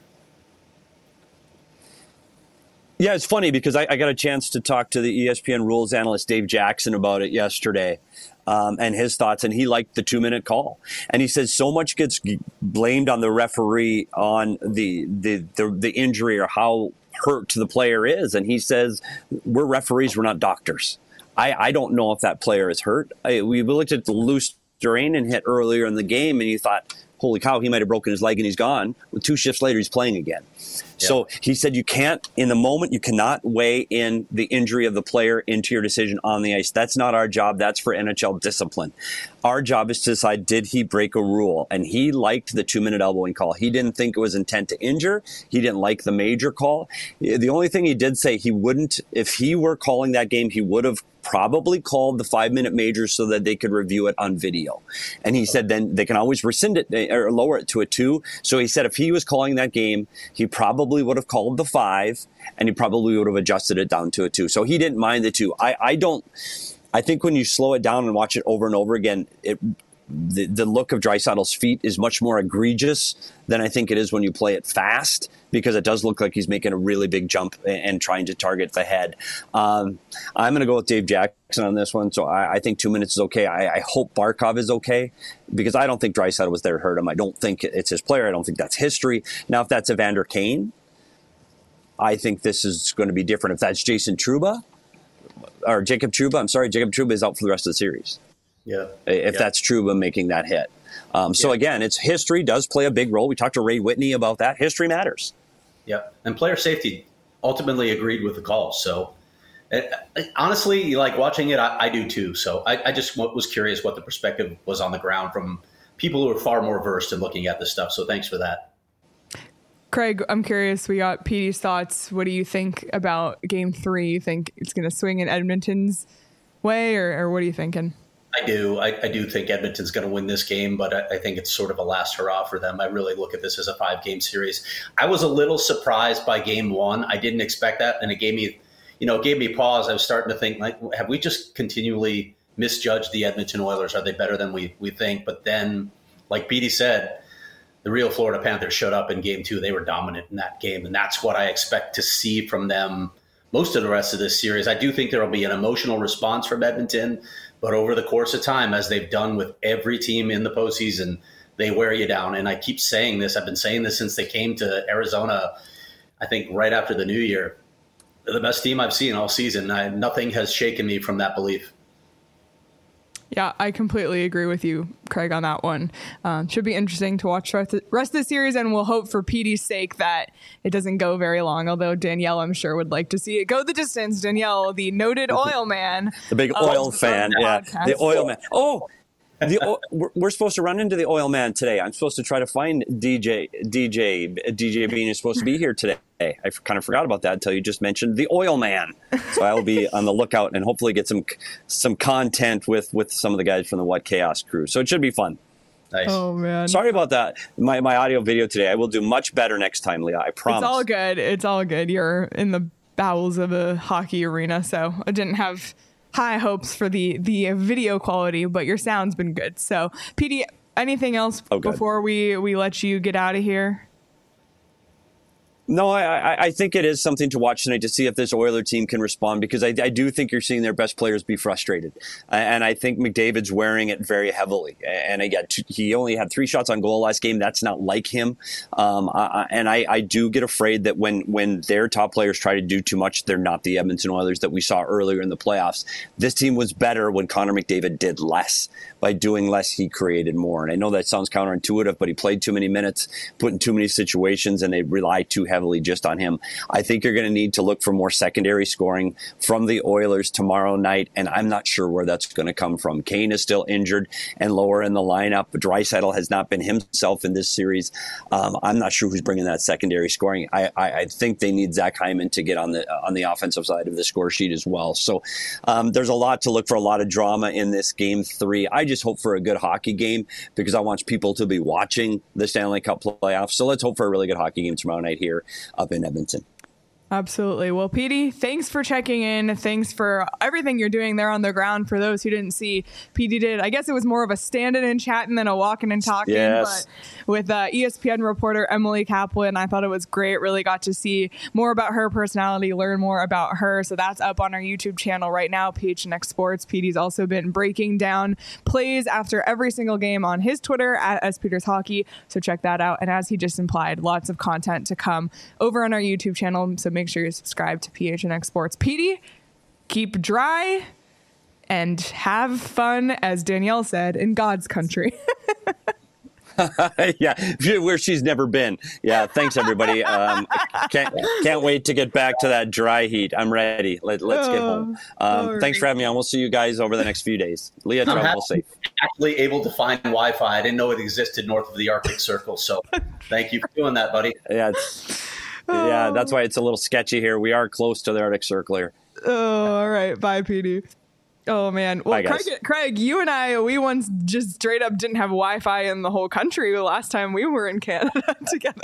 Yeah, it's funny because I got a chance to talk to the ESPN rules analyst Dave Jackson about it yesterday and his thoughts. And he liked the 2-minute call. And he says so much gets blamed on the referee on the injury or how hurt the player is. And he says, we're referees, we're not doctors. I don't know if that player is hurt. We looked at the loose Durainen hit earlier in the game, and you thought, holy cow, he might have broken his leg and he's gone. Well, 2 shifts later, he's playing again. Yeah. So he said you can't, in the moment, you cannot weigh in the injury of the player into your decision on the ice. That's not our job. That's for NHL discipline. Our job is to decide, did he break a rule? And he liked the 2-minute elbowing call. He didn't think it was intent to injure. He didn't like the major call. The only thing he did say, he wouldn't, if he were calling that game, he would have probably called the 5-minute major so that they could review it on video. And he said then they can always rescind it or lower it to a 2. So he said if he was calling that game, he probably would have called the 5 and he probably would have adjusted it down to a 2. So he didn't mind the 2. I think when you slow it down and watch it over and over again, the look of Draisaitl's feet is much more egregious than I think it is when you play it fast, because it does look like he's making a really big jump and trying to target the head. I'm going to go with Dave Jackson on this one. So I think 2 minutes is okay. I hope Barkov is okay, because I don't think Draisaitl was there to hurt him. I don't think it's his player. I don't think that's history. Now, if that's Evander Kane, I think this is going to be different. If that's Jason Trouba or Jacob Trouba, Jacob Trouba is out for the rest of the series. Yeah. If that's Trouba making that hit. So again, it's history does play a big role. We talked to Ray Whitney about that. History matters. Yeah. And player safety ultimately agreed with the call. So honestly, like watching it, I do too. So I just was curious what the perspective was on the ground from people who are far more versed in looking at this stuff. So thanks for that. Craig, I'm curious. We got Petey's thoughts. What do you think about game 3? You think it's going to swing in Edmonton's way, or what are you thinking? I do think Edmonton's going to win this game, but I think it's sort of a last hurrah for them. I really look at this as a 5-game series. I was a little surprised by game 1. I didn't expect that, and it gave me pause. I was starting to think, like, have we just continually misjudged the Edmonton Oilers? Are they better than we think? But then like Petey said, the real Florida Panthers showed up in game 2. They were dominant in that game, and that's what I expect to see from them most of the rest of this series. I do think there will be an emotional response from Edmonton, but over the course of time, as they've done with every team in the postseason, they wear you down. And I keep saying this. I've been saying this since they came to Arizona, I think right after the new year. They're the best team I've seen all season. Nothing has shaken me from that belief. Yeah, I completely agree with you, Craig, on that one. Should be interesting to watch the rest of the series, and we'll hope for Petey's sake that it doesn't go very long, although Danielle, I'm sure, would like to see it go the distance. Danielle, the noted oil man. The big oil fan, yeah. The oil man. Oh, we're supposed to run into the oil man today. I'm supposed to try to find DJ Bean is supposed to be here today. I kind of forgot about that until you just mentioned the oil man. So I will be on the lookout and hopefully get some content with some of the guys from the What Chaos crew. So it should be fun. Nice. Oh, man. Sorry about that. My audio video today. I will do much better next time, Leah. I promise. It's all good. It's all good. You're in the bowels of a hockey arena, so I didn't have high hopes for the video quality, but your sound's been good. So, Petey, anything else before we let you get out of here? No, I think it is something to watch tonight to see if this Oiler team can respond, because I do think you're seeing their best players be frustrated. And I think McDavid's wearing it very heavily. And again, he only had 3 shots on goal last game. That's not like him. And I do get afraid that when their top players try to do too much, they're not the Edmonton Oilers that we saw earlier in the playoffs. This team was better when Connor McDavid did less. By doing less, he created more. And I know that sounds counterintuitive, but he played too many minutes, put in too many situations, and they rely too heavily just on him. I think you're going to need to look for more secondary scoring from the Oilers tomorrow night, and I'm not sure where that's going to come from. Kane is still injured and lower in the lineup. Draisaitl has not been himself in this series. I'm not sure who's bringing that secondary scoring. I think they need Zach Hyman to get on the offensive side of the score sheet as well. So there's a lot to look for, a lot of drama in this game 3. I just hope for a good hockey game because I want people to be watching the Stanley Cup playoffs. So let's hope for a really good hockey game tomorrow night here up in Edmonton. Absolutely. Well, Petey, thanks for checking in. Thanks for everything you're doing there on the ground. For those who didn't see, Petey did, I guess it was more of a standing and chatting than a walking and talking. Yes. But with ESPN reporter Emily Kaplan, I thought it was great. Really got to see more about her personality, learn more about her. So that's up on our YouTube channel right now, PHNX Sports. Petey's also been breaking down plays after every single game on his Twitter at @SPetersHockey. So check that out. And as he just implied, lots of content to come over on our YouTube channel. So make sure you subscribe to PHNX Sports. Petey, keep dry and have fun, as Danielle said, in God's country. Yeah, where she's never been. Yeah, thanks everybody. Can't wait to get back to that dry heat. I'm ready. Let's get home. Thanks for having me on. We'll see you guys over the next few days. Leah, travel safe. Actually able to find Wi-Fi. I didn't know it existed north of the Arctic Circle. So thank you for doing that, buddy. Yeah, that's why it's a little sketchy here. We are close to the Arctic Circle here. Oh, all right. Bye, Petey. Oh, man. Well, bye, Craig, you and I, we once just straight up didn't have Wi-Fi in the whole country last time we were in Canada together.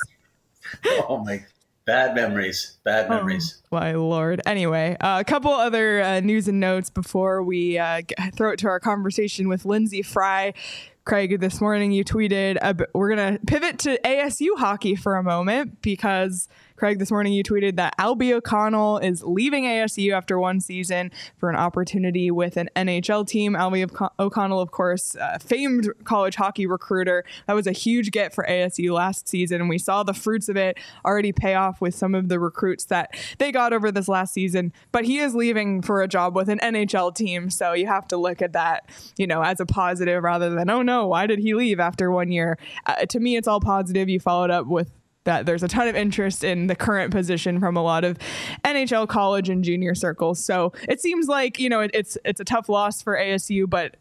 Oh, my. Bad memories. Bad memories. Oh, my Lord. Anyway, a couple other news and notes before we throw it to our conversation with Lindsey Fry. Craig, this morning you tweeted, we're going to pivot to ASU hockey for a moment because, Craig, this morning you tweeted that Albie O'Connell is leaving ASU after one season for an opportunity with an NHL team. Albie O'Connell, of course, famed college hockey recruiter. That was a huge get for ASU last season, and we saw the fruits of it already pay off with some of the recruits that they got over this last season. But he is leaving for a job with an NHL team, so you have to look at that, as a positive rather than, oh no, why did he leave after 1 year? To me, it's all positive. You followed up with that there's a ton of interest in the current position from a lot of NHL college and junior circles. So it seems like, it's a tough loss for ASU, but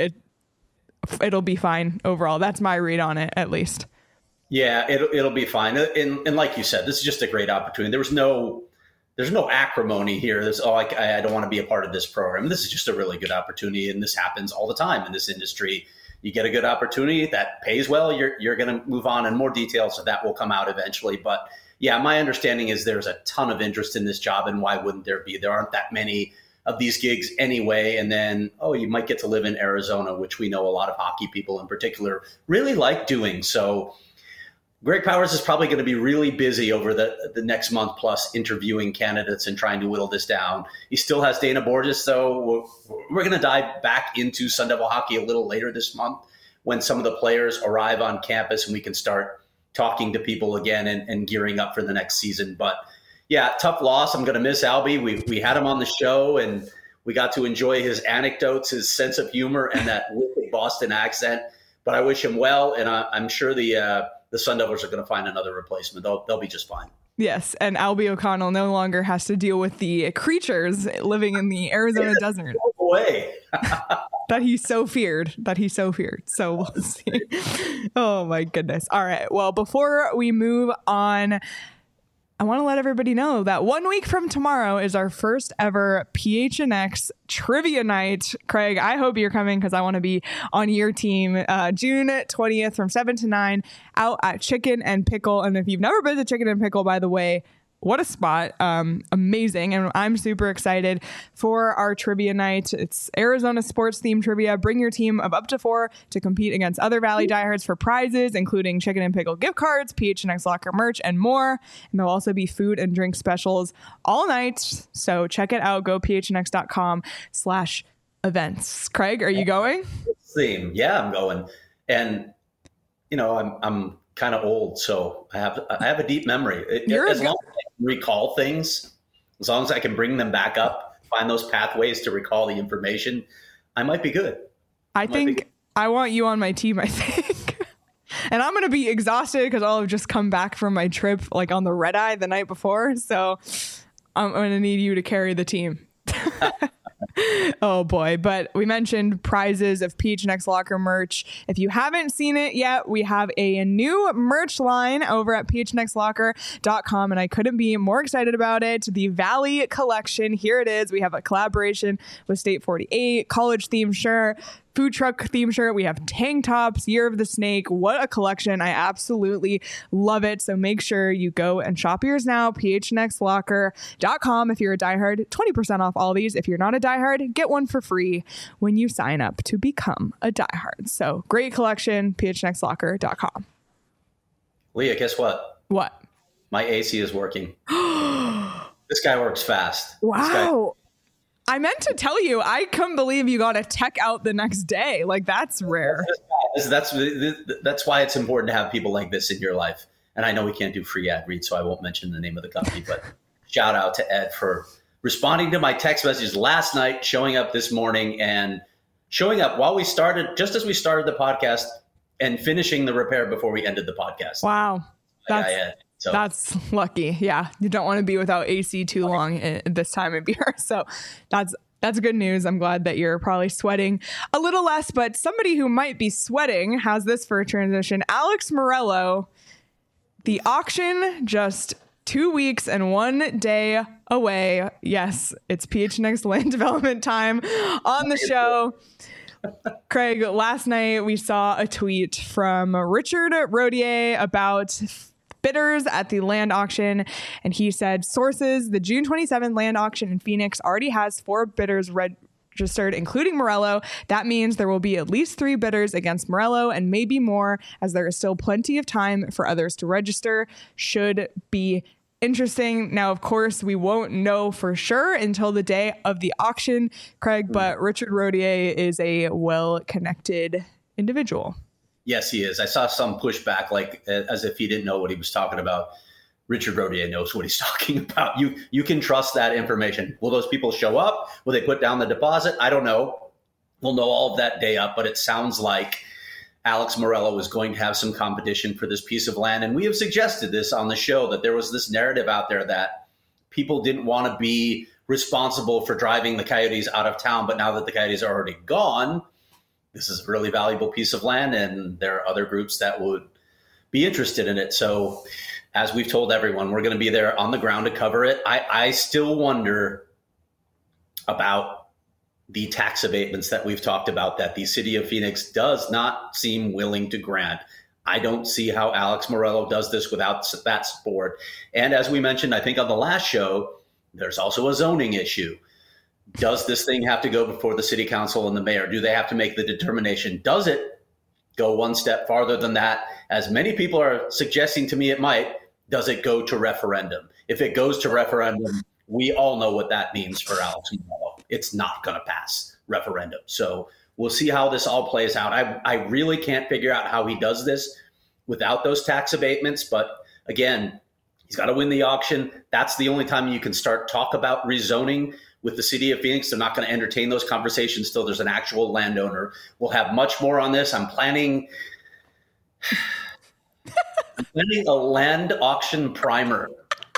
it'll be fine overall. That's my read on it, at least. Yeah, it'll be fine. And like you said, this is just a great opportunity. There's no acrimony here. I don't want to be a part of this program. This is just a really good opportunity, and this happens all the time in this industry. You get a good opportunity that pays well, you're going to move on, and more details of that will come out eventually. But yeah, my understanding is there's a ton of interest in this job, and why wouldn't there be? There aren't that many of these gigs anyway. And then, you might get to live in Arizona, which we know a lot of hockey people in particular really like doing. So Greg Powers is probably going to be really busy over the next month plus interviewing candidates and trying to whittle this down. He still has Dana Borges, though. We're going to dive back into Sun Devil hockey a little later this month when some of the players arrive on campus and we can start talking to people again and gearing up for the next season. But yeah, tough loss. I'm going to miss Albie. We had him on the show and we got to enjoy his anecdotes, his sense of humor, and that wicked Boston accent. But I wish him well, and I'm sure the Sun Devils are going to find another replacement. They'll be just fine. Yes, and Albie O'Connell no longer has to deal with the creatures living in the Arizona desert. No way. that he so feared. So we'll see. Oh, my goodness. All right. Well, before we move on, I want to let everybody know that 1 week from tomorrow is our first ever PHNX trivia night. Craig, I hope you're coming because I want to be on your team. June 20th from 7 to 9 out at Chicken and Pickle. And if you've never been to Chicken and Pickle, by the way, what a spot. Amazing. And I'm super excited for our trivia night. It's Arizona sports themed trivia. Bring your team of up to 4 to compete against other Valley diehards for prizes, including Chicken and Pickle gift cards, PHNX locker merch, and more. And there'll also be food and drink specials all night. So check it out. Go phnx.com/events. Craig, are you going? Theme. Yeah, I'm going. And, I'm kind of old, so I have a deep memory. As long as I can recall things, as long as I can bring them back up, find those pathways to recall the information, I might be good. I think I want you on my team, I think. And I'm going to be exhausted because I'll have just come back from my trip like on the red eye the night before. So I'm going to need you to carry the team. Oh boy. But we mentioned prizes of PHNX locker merch. If you haven't seen it yet, we have a new merch line over at phnxlocker.com, and I couldn't be more excited about it. The Valley collection. Here it is. We have a collaboration with State 48, college themed shirt, food truck theme shirt. We have tank tops, Year of the Snake. What a collection. I absolutely love it. So make sure you go and shop yours now. phnxlocker.com. If you're a diehard, 20% off all these. If you're not a diehard, get one for free when you sign up to become a diehard. So great collection, phnxlocker.com. Leah, guess what? What? My AC is working. This guy works fast. Wow. I meant to tell you, I couldn't believe you got a tech out the next day. Like, that's rare. That's why it's important to have people like this in your life. And I know we can't do free ad reads, so I won't mention the name of the company, but shout out to Ed for responding to my text messages last night, showing up this morning, and showing up while we started, just as we started the podcast, and finishing the repair before we ended the podcast. Wow. That's lucky. Yeah. You don't want to be without AC too long this time of year. So that's good news. I'm glad that you're probably sweating a little less, but somebody who might be sweating has this for a transition. Alex Morello, the auction just 2 weeks and 1 day away. Yes, it's PHNX land development time on the show. Craig, last night we saw a tweet from Richard Rodier about bidders at the land auction, and he said sources, the June 27th land auction in Phoenix already has 4 bidders registered, including Morello. That means there will be at least 3 bidders against Morello and maybe more, as there is still plenty of time for others to register. Should be interesting. Now, of course, we won't know for sure until the day of the auction, Craig, but Richard Rodier is a well-connected individual. Yes, he is. I saw some pushback, like as if he didn't know what he was talking about. Richard Rodier knows what he's talking about. You can trust that information. Will those people show up? Will they put down the deposit? I don't know. We'll know all of that day up, but it sounds like Alex Morello is going to have some competition for this piece of land. And we have suggested this on the show, that there was this narrative out there that people didn't want to be responsible for driving the Coyotes out of town. But now that the Coyotes are already gone, this is a really valuable piece of land, and there are other groups that would be interested in it. So as we've told everyone, we're going to be there on the ground to cover it. I still wonder about the tax abatements that we've talked about that the city of Phoenix does not seem willing to grant. I don't see how Alex Morello does this without that support. And as we mentioned, I think on the last show, there's also a zoning issue. Does this thing have to go before the city council and the mayor? Do they have to make the determination? Does it go one step farther than that? As many people are suggesting to me it might, does it go to referendum? If it goes to referendum, we all know what that means for Alex Meruelo. It's not going to pass referendum. So we'll see how this all plays out. I really can't figure out how he does this without those tax abatements. But again, he's got to win the auction. That's the only time you can start talk about rezoning with the city of Phoenix. They're not going to entertain those conversations till there's an actual landowner. We'll have much more on this. I'm planning a land auction primer.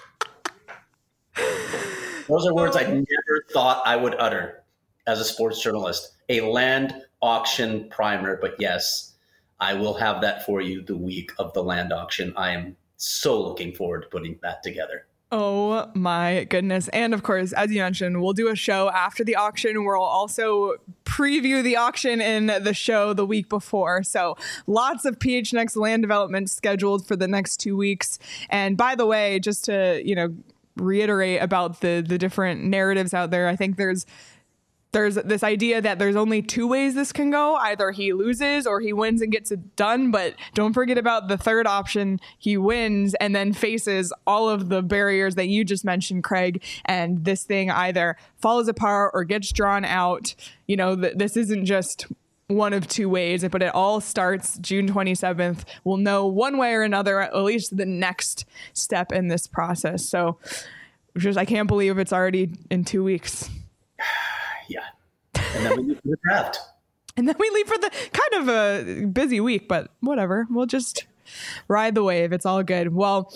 Those are words I never thought I would utter as a sports journalist. A land auction primer. But yes, I will have that for you the week of the land auction. I am so looking forward to putting that together. Oh my goodness. And of course, as you mentioned, we'll do a show after the auction. We'll also preview the auction in the show the week before. So lots of PHNX land development scheduled for the next 2 weeks. And by the way, just to, reiterate about the different narratives out there, I think there's this idea that there's only 2 ways this can go. Either he loses or he wins and gets it done. But don't forget about the third option. He wins and then faces all of the barriers that you just mentioned, Craig. And this thing either falls apart or gets drawn out. This isn't just one of 2 ways, but it all starts June 27th. We'll know one way or another, at least the next step in this process. So I can't believe it's already in 2 weeks. Yeah. And then we leave for the draft. And then we leave for the kind of a busy week, but whatever. We'll just ride the wave. It's all good. Well,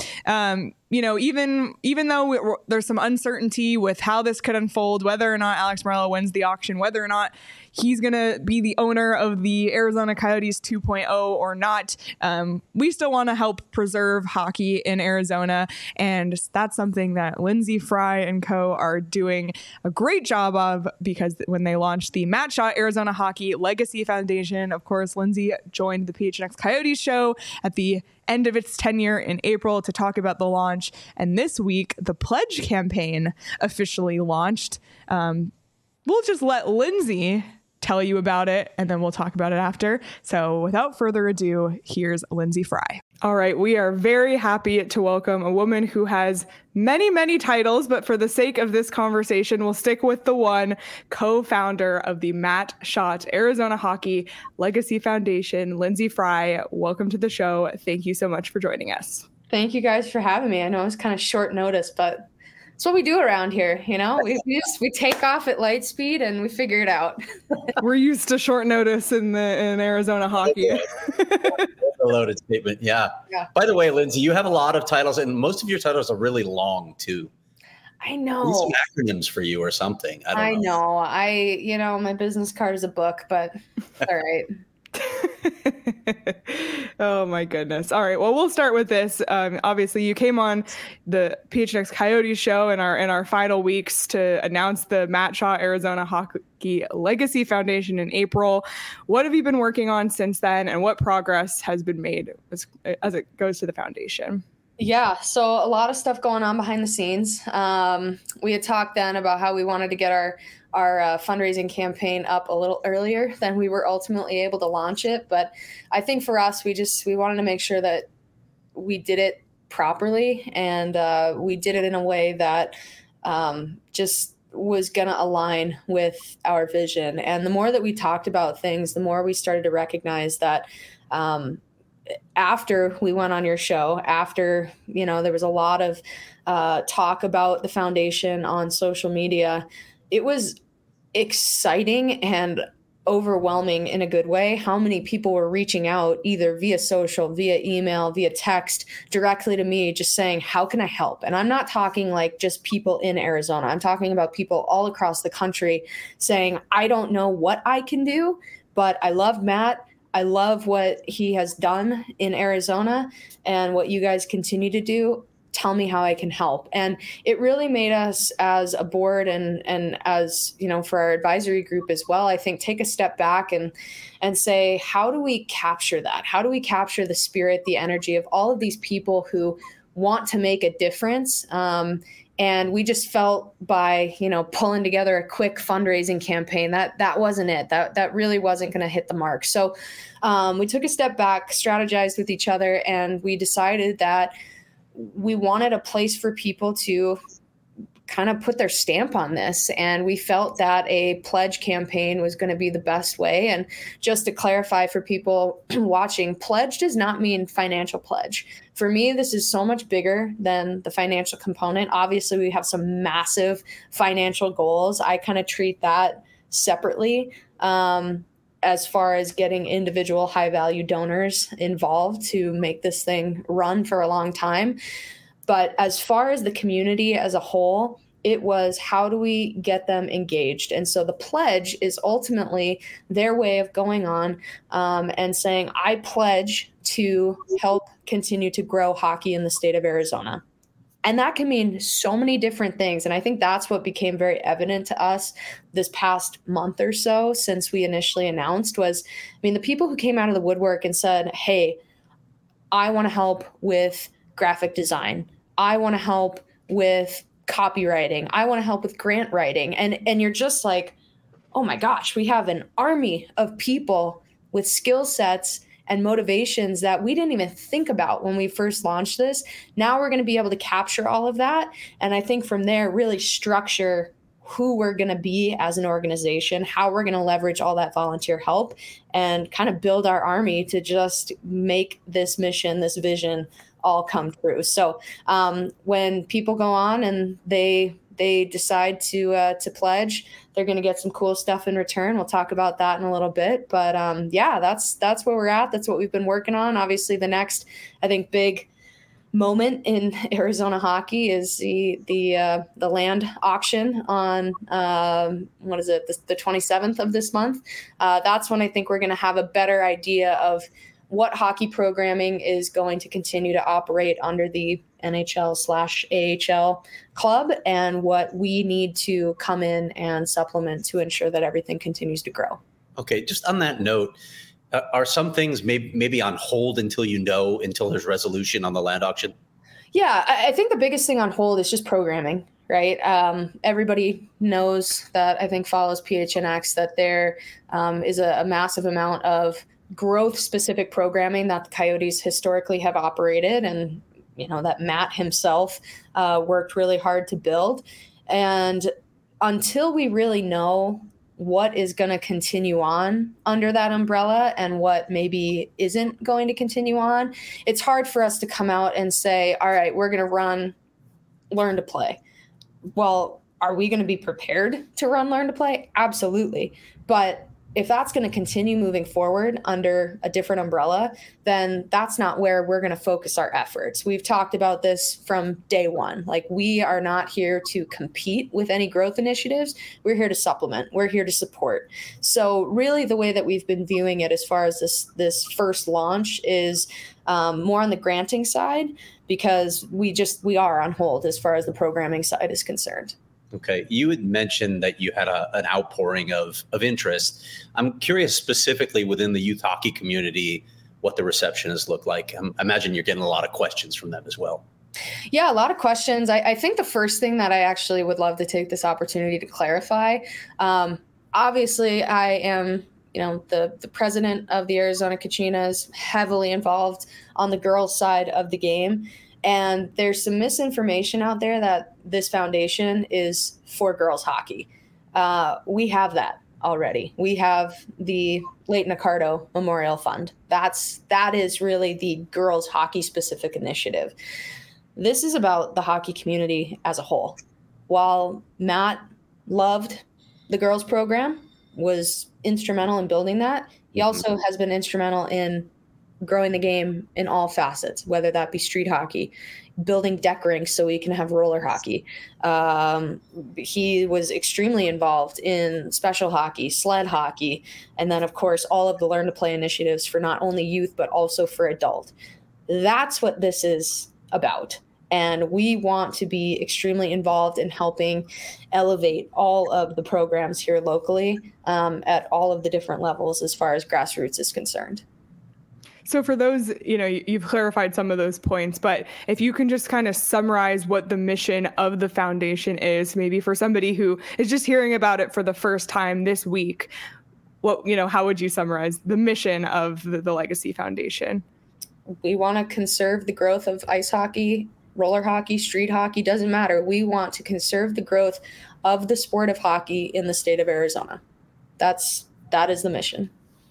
even though there's some uncertainty with how this could unfold, whether or not Alex Meruelo wins the auction, whether or not he's going to be the owner of the Arizona Coyotes 2.0 or not, we still want to help preserve hockey in Arizona. And that's something that Lindsey Fry and co are doing a great job of, because when they launched the Matt Shaw Arizona Hockey Legacy Foundation, of course, Lindsey joined the PHNX Coyotes show at the end of its tenure in April to talk about the launch. And this week, the Pledge campaign officially launched. We'll just let Lindsey tell you about it, and then we'll talk about it after. So without further ado, here's Lindsey Fry. All right, we are very happy to welcome a woman who has many, many titles, but for the sake of this conversation, we'll stick with the one, co-founder of the Matt Shaw Arizona Hockey Legacy Foundation, Lindsey Fry. Welcome to the show. Thank you so much for joining us. Thank you guys for having me. I know it was kind of short notice, but it's what we do around here. We take off at light speed and we figure it out. We're used to short notice in Arizona hockey. A loaded statement. Yeah. By the way, Lindsey, you have a lot of titles, and most of your titles are really long too. I know. Need some acronyms for you or something. I know. My business card is a book, but all right. Oh my goodness. All right. Well, we'll start with this. Obviously, you came on the PHNX Coyotes show in our final weeks to announce the Matt Shaw Arizona Hockey Legacy Foundation in April. What have you been working on since then, and what progress has been made as it goes to the foundation? Yeah, so a lot of stuff going on behind the scenes. We had talked then about how we wanted to get our fundraising campaign up a little earlier than we were ultimately able to launch it. But I think for us, we wanted to make sure that we did it properly, and we did it in a way that just was going to align with our vision. And the more that we talked about things, the more we started to recognize that after we went on your show, after, there was a lot of talk about the foundation on social media, it was exciting and overwhelming in a good way how many people were reaching out either via social, via email, via text directly to me, just saying, how can I help? And I'm not talking like just people in Arizona. I'm talking about people all across the country saying, I don't know what I can do, but I love Matt. I love what he has done in Arizona and what you guys continue to do. Tell me how I can help. And it really made us as a board and as, for our advisory group as well, I think take a step back and say, how do we capture that? How do we capture the spirit, the energy of all of these people who want to make a difference. And we just felt by, pulling together a quick fundraising campaign that wasn't it. That really wasn't going to hit the mark. So we took a step back, strategized with each other, and we decided that we wanted a place for people to kind of put their stamp on this. And we felt that a pledge campaign was going to be the best way. And just to clarify for people watching, pledge does not mean financial pledge. For me, this is so much bigger than the financial component. Obviously, we have some massive financial goals. I kind of treat that separately. As far as getting individual high value donors involved to make this thing run for a long time. But as far as the community as a whole, it was how do we get them engaged? And so the pledge is ultimately their way of going on and saying, I pledge to help continue to grow hockey in the state of Arizona. And that can mean so many different things. And I think that's what became very evident to us this past month or so since we initially announced was, the people who came out of the woodwork and said, hey, I want to help with graphic design. I want to help with copywriting. I want to help with grant writing. And you're just like, oh my gosh, we have an army of people with skill sets and motivations that we didn't even think about when we first launched this. Now we're going to be able to capture all of that. And I think from there, really structure who we're going to be as an organization, how we're going to leverage all that volunteer help and kind of build our army to just make this mission, this vision all come true. So when people go on and they decide to pledge, they're going to get some cool stuff in return. We'll talk about that in a little bit. But that's where we're at. That's what we've been working on. Obviously, the next, I think, big moment in Arizona hockey is the land auction on the 27th of this month. That's when I think we're going to have a better idea of what hockey programming is going to continue to operate under the NHL/AHL club and what we need to come in and supplement to ensure that everything continues to grow. Okay, just on that note, are some things maybe on hold until there's resolution on the land auction? Yeah, I think the biggest thing on hold is just programming, right? Everybody knows that, I think follows PHNX, that there is a massive amount of growth-specific programming that the Coyotes historically have operated and, that Matt himself worked really hard to build. And until we really know what is going to continue on under that umbrella and what maybe isn't going to continue on, it's hard for us to come out and say, all right, we're going to run Learn to Play. Well, are we going to be prepared to run Learn to Play? Absolutely. But if that's going to continue moving forward under a different umbrella, then that's not where we're going to focus our efforts. We've talked about this from day one. Like, we are not here to compete with any growth initiatives. We're here to supplement. We're here to support. So really the way that we've been viewing it as far as this first launch is more on the granting side, because we are on hold as far as the programming side is concerned. Okay. You had mentioned that you had an outpouring of interest. I'm curious specifically within the youth hockey community, what the reception has looked like. I imagine you're getting a lot of questions from them as well. Yeah, a lot of questions. I think the first thing that I actually would love to take this opportunity to clarify, obviously I am, the president of the Arizona Kachinas, heavily involved on the girls' side of the game. And there's some misinformation out there that this foundation is for girls hockey. We have that already. We have the Leighton Accardo Memorial Fund. That is really the girls hockey specific initiative. This is about the hockey community as a whole. While Matt loved the girls program, was instrumental in building that, he also has been instrumental in growing the game in all facets, whether that be street hockey, building deck rinks so we can have roller hockey. He was extremely involved in special hockey, sled hockey, and then, of course, all of the Learn to Play initiatives for not only youth, but also for adult. That's what this is about. And we want to be extremely involved in helping elevate all of the programs here locally at all of the different levels as far as grassroots is concerned. So for those, you've clarified some of those points, but if you can just kind of summarize what the mission of the foundation is, maybe for somebody who is just hearing about it for the first time this week, how would you summarize the mission of the Legacy Foundation? We want to conserve the growth of ice hockey, roller hockey, street hockey, doesn't matter. We want to conserve the growth of the sport of hockey in the state of Arizona. That is the mission.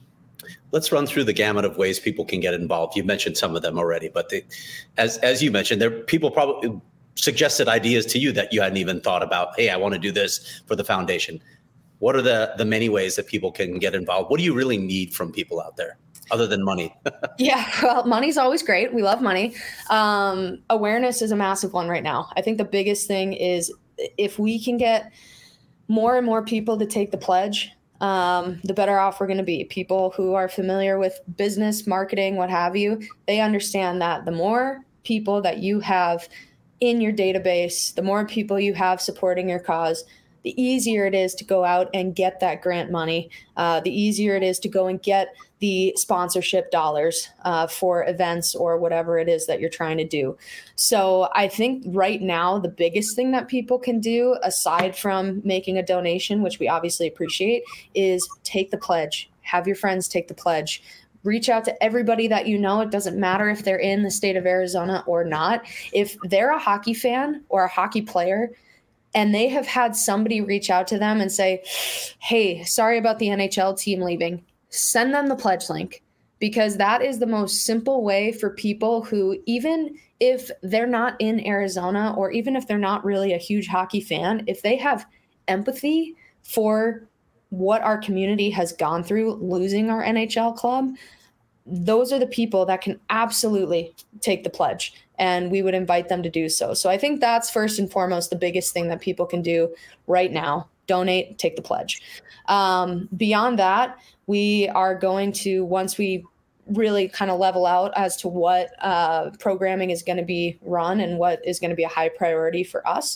Let's run through the gamut of ways people can get involved. You mentioned some of them already, but as you mentioned, people probably suggested ideas to you that you hadn't even thought about. Hey, I want to do this for the foundation. What are the many ways that people can get involved? What do you really need from people out there other than money? Yeah, well, money's always great. We love money. Awareness is a massive one right now. I think the biggest thing is if we can get more and more people to take the pledge, the better off we're going to be. People who are familiar with business, marketing, what have you, they understand that the more people that you have in your database, the more people you have supporting your cause, the easier it is to go out and get that grant money, the easier it is to go and get the sponsorship dollars for events or whatever it is that you're trying to do. So I think right now, the biggest thing that people can do, aside from making a donation, which we obviously appreciate, is take the pledge. Have your friends take the pledge. Reach out to everybody that you know. It doesn't matter if they're in the state of Arizona or not. If they're a hockey fan or a hockey player, and they have had somebody reach out to them and say, hey, sorry about the NHL team leaving, send them the pledge link, because that is the most simple way for people who, even if they're not in Arizona or even if they're not really a huge hockey fan, if they have empathy for what our community has gone through losing our NHL club, those are the people that can absolutely take the pledge, and we would invite them to do so. So I think that's first and foremost the biggest thing that people can do right now. Donate, take the pledge. Beyond that, we are going to, once we really kind of level out as to what programming is going to be run and what is going to be a high priority for us,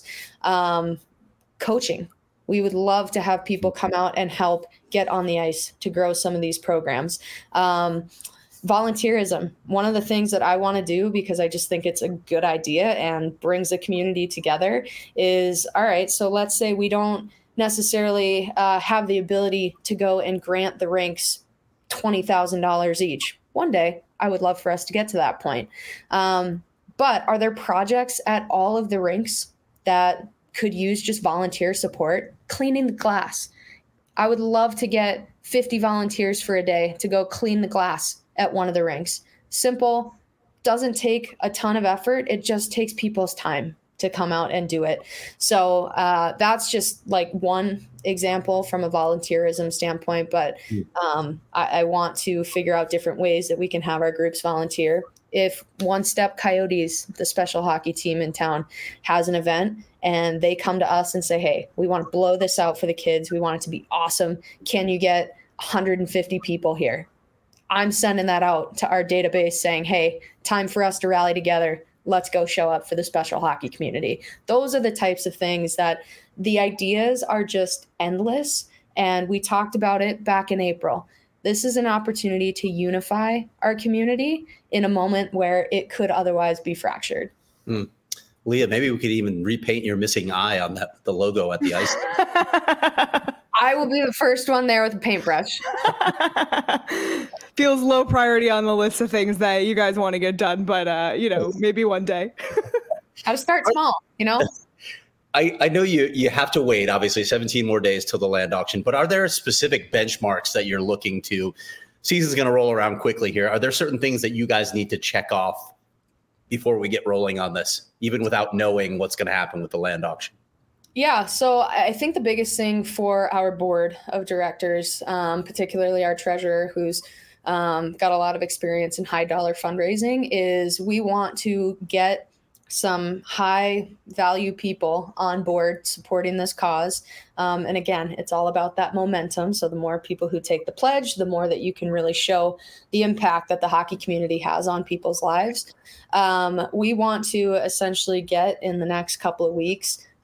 coaching. We would love to have people come out and help get on the ice to grow some of these programs. Volunteerism. One of the things that I want to do, because I just think it's a good idea and brings the community together, is, all right, so let's say we don't necessarily have the ability to go and grant the rinks $20,000 each. One day, I would love for us to get to that point. But are there projects at all of the rinks that could use just volunteer support? Cleaning the glass. I would love to get 50 volunteers for a day to go clean the glass at one of the rinks. Simple, doesn't take a ton of effort. It just takes people's time to come out and do it. So that's just like one example from a volunteerism standpoint. But I want to figure out different ways that we can have our groups volunteer. If One Step Coyotes, the special hockey team in town, has an event and they come to us and say, hey, we want to blow this out for the kids. We want it to be awesome. Can you get 150 people here? I'm sending that out to our database saying, hey, time for us to rally together. Let's go show up for the special hockey community. Those are the types of things that the ideas are just endless. And we talked about it back in April. This is an opportunity to unify our community in a moment where it could otherwise be fractured. Leah, maybe we could even repaint your missing eye on the logo at the ice. I will be the first one there with a paintbrush. Feels low priority on the list of things that you guys want to get done, but maybe one day. Gotta start small, I know you have to wait, obviously, 17 more days till the land auction, but are there specific benchmarks that you're looking to? Season's going to roll around quickly here. Are there certain things that you guys need to check off before we get rolling on this, even without knowing what's going to happen with the land auction? Yeah, so I think the biggest thing for our board of directors, particularly our treasurer, who's got a lot of experience in high dollar fundraising, is we want to get some high value people on board supporting this cause. And again, it's all about that momentum. So the more people who take the pledge, the more that you can really show the impact that the hockey community has on people's lives. We want to essentially get in the next couple of weeks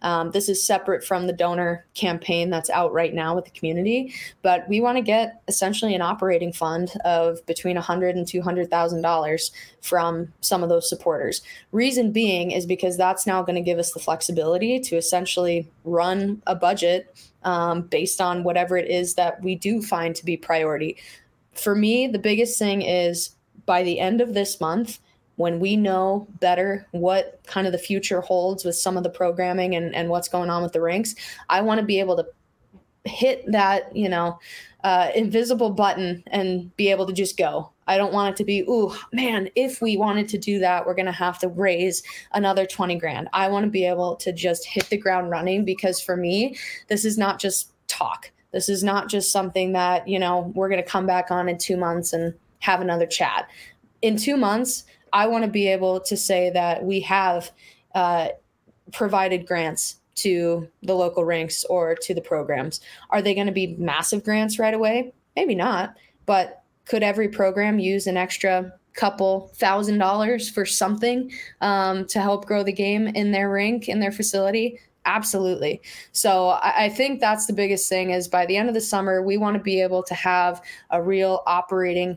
This is separate from the donor campaign that's out right now with the community, but we want to get essentially an operating fund of between $100,000 and $200,000 from some of those supporters. Reason being is because that's now going to give us the flexibility to essentially run a budget based on whatever it is that we do find to be priority. For me, the biggest thing is by the end of this month, when we know better what kind of the future holds with some of the programming and what's going on with the rinks, I want to be able to hit that, invisible button and be able to just go. I don't want it to be, ooh, man, if we wanted to do that, we're going to have to raise another 20 grand. I want to be able to just hit the ground running, because for me, this is not just talk. This is not just something that, we're going to come back on in 2 months and have another chat. In 2 months, I want to be able to say that we have provided grants to the local rinks or to the programs. Are they going to be massive grants right away? Maybe not. But could every program use an extra couple $1,000s for something to help grow the game in their rink, in their facility? Absolutely. So I think that's the biggest thing, is by the end of the summer, we want to be able to have a real operating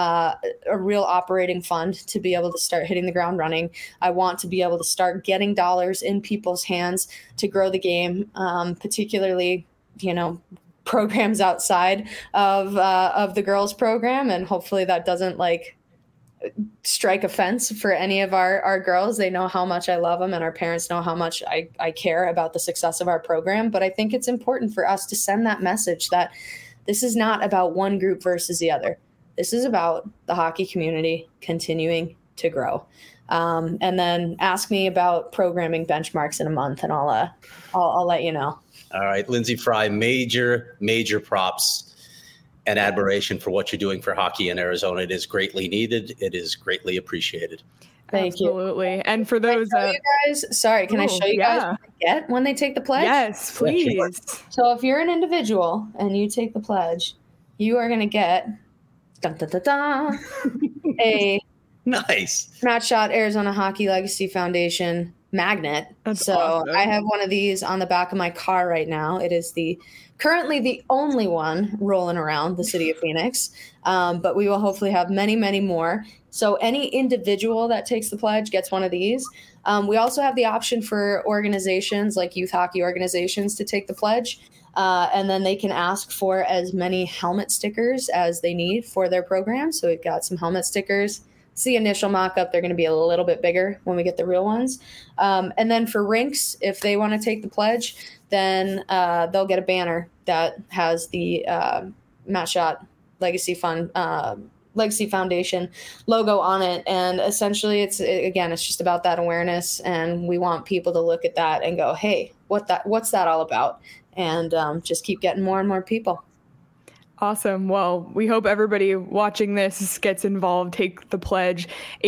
fund to be able to start hitting the ground running. I want to be able to start getting dollars in people's hands to grow the game, particularly, programs outside of the girls program. And hopefully that doesn't strike offense for any of our girls. They know how much I love them, and our parents know how much I care about the success of our program. But I think it's important for us to send that message that this is not about one group versus the other. This is about the hockey community continuing to grow. And then ask me about programming benchmarks in a month, and I'll let you know. All right, Lindsay Fry, major props and admiration for what you're doing for hockey in Arizona. It is greatly needed. It is greatly appreciated. Thank you. Absolutely. And for those, can I show you guys what they get when they take the pledge? Yes, please. Sure. So if you're an individual and you take the pledge, you are going to get a nice Matt Schott Arizona Hockey Legacy Foundation magnet. That's so awesome. I have one of these on the back of my car right now. It is currently the only one rolling around the city of Phoenix, but we will hopefully have many, many more. So any individual that takes the pledge gets one of these. We also have the option for organizations like youth hockey organizations to take the pledge. And then they can ask for as many helmet stickers as they need for their program. So we've got some helmet stickers. It's the initial mock-up. They're going to be a little bit bigger when we get the real ones. And then for rinks, if they want to take the pledge, then they'll get a banner that has the Matt Schott Legacy Foundation logo on it. And essentially it's just about that awareness. And we want people to look at that and go, hey, what's that all about? And just keep getting more and more people. Awesome. Well, we hope everybody watching this gets involved. Take the pledge,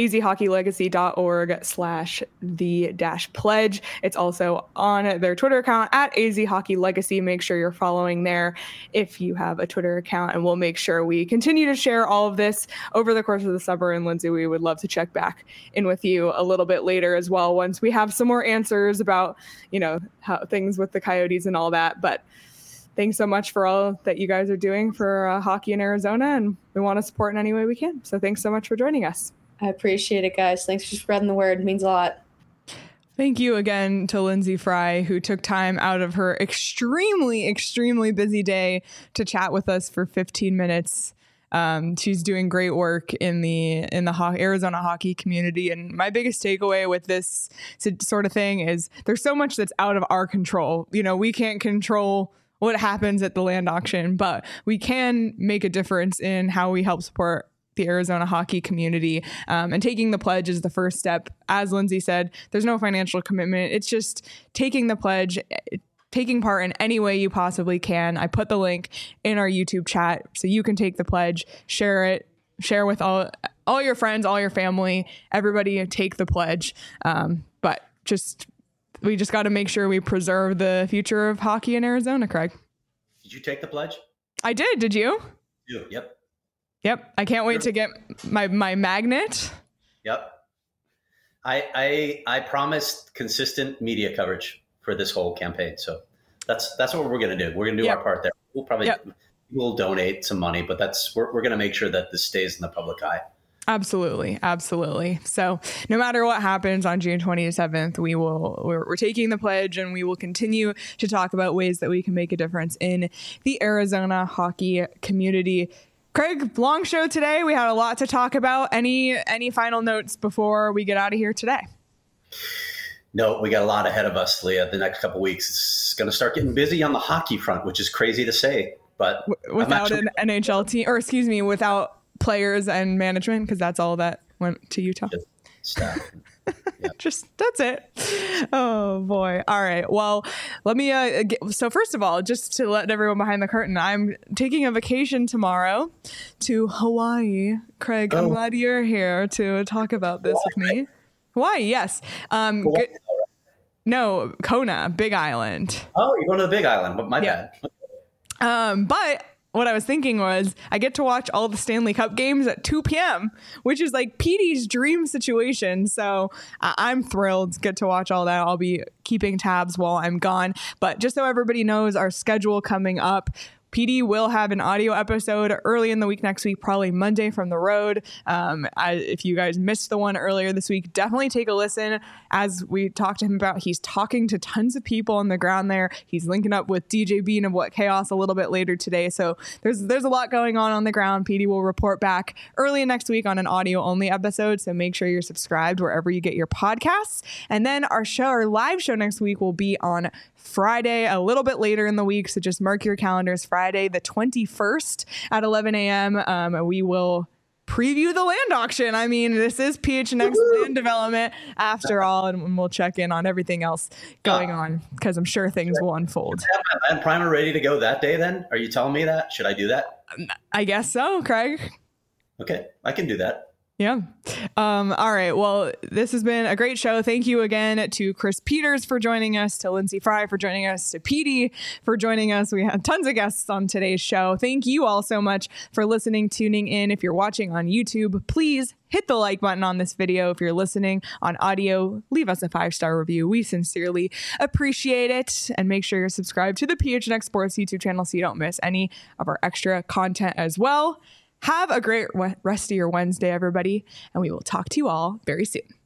azhockeylegacy.org/the-pledge. It's also on their Twitter account at azhockeylegacy. Make sure you're following there if you have a Twitter account, and we'll make sure we continue to share all of this over the course of the summer. And Lindsay, we would love to check back in with you a little bit later as well, once we have some more answers about, how things with the Coyotes and all that. But thanks so much for all that you guys are doing for hockey in Arizona, and we want to support in any way we can. So thanks so much for joining us. I appreciate it, guys. Thanks for spreading the word. It means a lot. Thank you again to Lindsay Fry, who took time out of her extremely, extremely busy day to chat with us for 15 minutes. She's doing great work in the Arizona hockey community. And my biggest takeaway with this sort of thing is there's so much that's out of our control. We can't control what happens at the land auction, but we can make a difference in how we help support the Arizona hockey community. And taking the pledge is the first step. As Lindsay said, there's no financial commitment. It's just taking the pledge, taking part in any way you possibly can. I put the link in our YouTube chat so you can take the pledge, share with all your friends, all your family, everybody take the pledge. We just got to make sure we preserve the future of hockey in Arizona, Craig. Did you take the pledge? I did. Did you? Yep. Yep. I can't wait to get my magnet. Yep. I promised consistent media coverage for this whole campaign. So that's what we're going to do. We're going to do our part there. We'll probably we'll donate some money, but we're going to make sure that this stays in the public eye. Absolutely. Absolutely. So no matter what happens on June 27th, we're taking the pledge, and we will continue to talk about ways that we can make a difference in the Arizona hockey community. Craig, long show today. We had a lot to talk about. Any final notes before we get out of here today? No, we got a lot ahead of us, Leah. The next couple of weeks, it's going to start getting busy on the hockey front, which is crazy to say, but without an NHL team, or excuse me, without players and management, because that's all that went to Utah. Staff. Yeah. That's it. Oh boy. All right. Well, let me so first of all, just to let everyone behind the curtain, I'm taking a vacation tomorrow to Hawaii. Craig, I'm glad you're here to talk about this with me. Hawaii, yes. No, Kona, Big Island. Oh, you're going to the Big Island. My bad. But what I was thinking was I get to watch all the Stanley Cup games at 2 p.m., which is like Petey's dream situation. So I'm thrilled to get to watch all that. I'll be keeping tabs while I'm gone. But just so everybody knows our schedule coming up, PD will have an audio episode early in the week next week, probably Monday from the road. If you guys missed the one earlier this week, definitely take a listen. As we talked to him about, he's talking to tons of people on the ground there. He's linking up with DJ Bean of What Chaos a little bit later today. So there's a lot going on the ground. PD will report back early next week on an audio only episode. So make sure you're subscribed wherever you get your podcasts. And then our live show next week will be on Friday, a little bit later in the week. So just mark your calendars. Friday, the 21st at 11 a.m. We will preview the land auction. I mean, this is PHNX land development after all, and we'll check in on everything else going on, because I'm sure things will unfold. Is my land primer ready to go that day then? Are you telling me that? Should I do that? I guess so, Craig. Okay, I can do that. Yeah. All right. Well, this has been a great show. Thank you again to Chris Peters for joining us, to Lindsay Fry for joining us, to Petey for joining us. We had tons of guests on today's show. Thank you all so much for listening, tuning in. If you're watching on YouTube, please hit the like button on this video. If you're listening on audio, leave us a 5-star review. We sincerely appreciate it. And make sure you're subscribed to the PHNX Sports YouTube channel so you don't miss any of our extra content as well. Have a great rest of your Wednesday, everybody, and we will talk to you all very soon.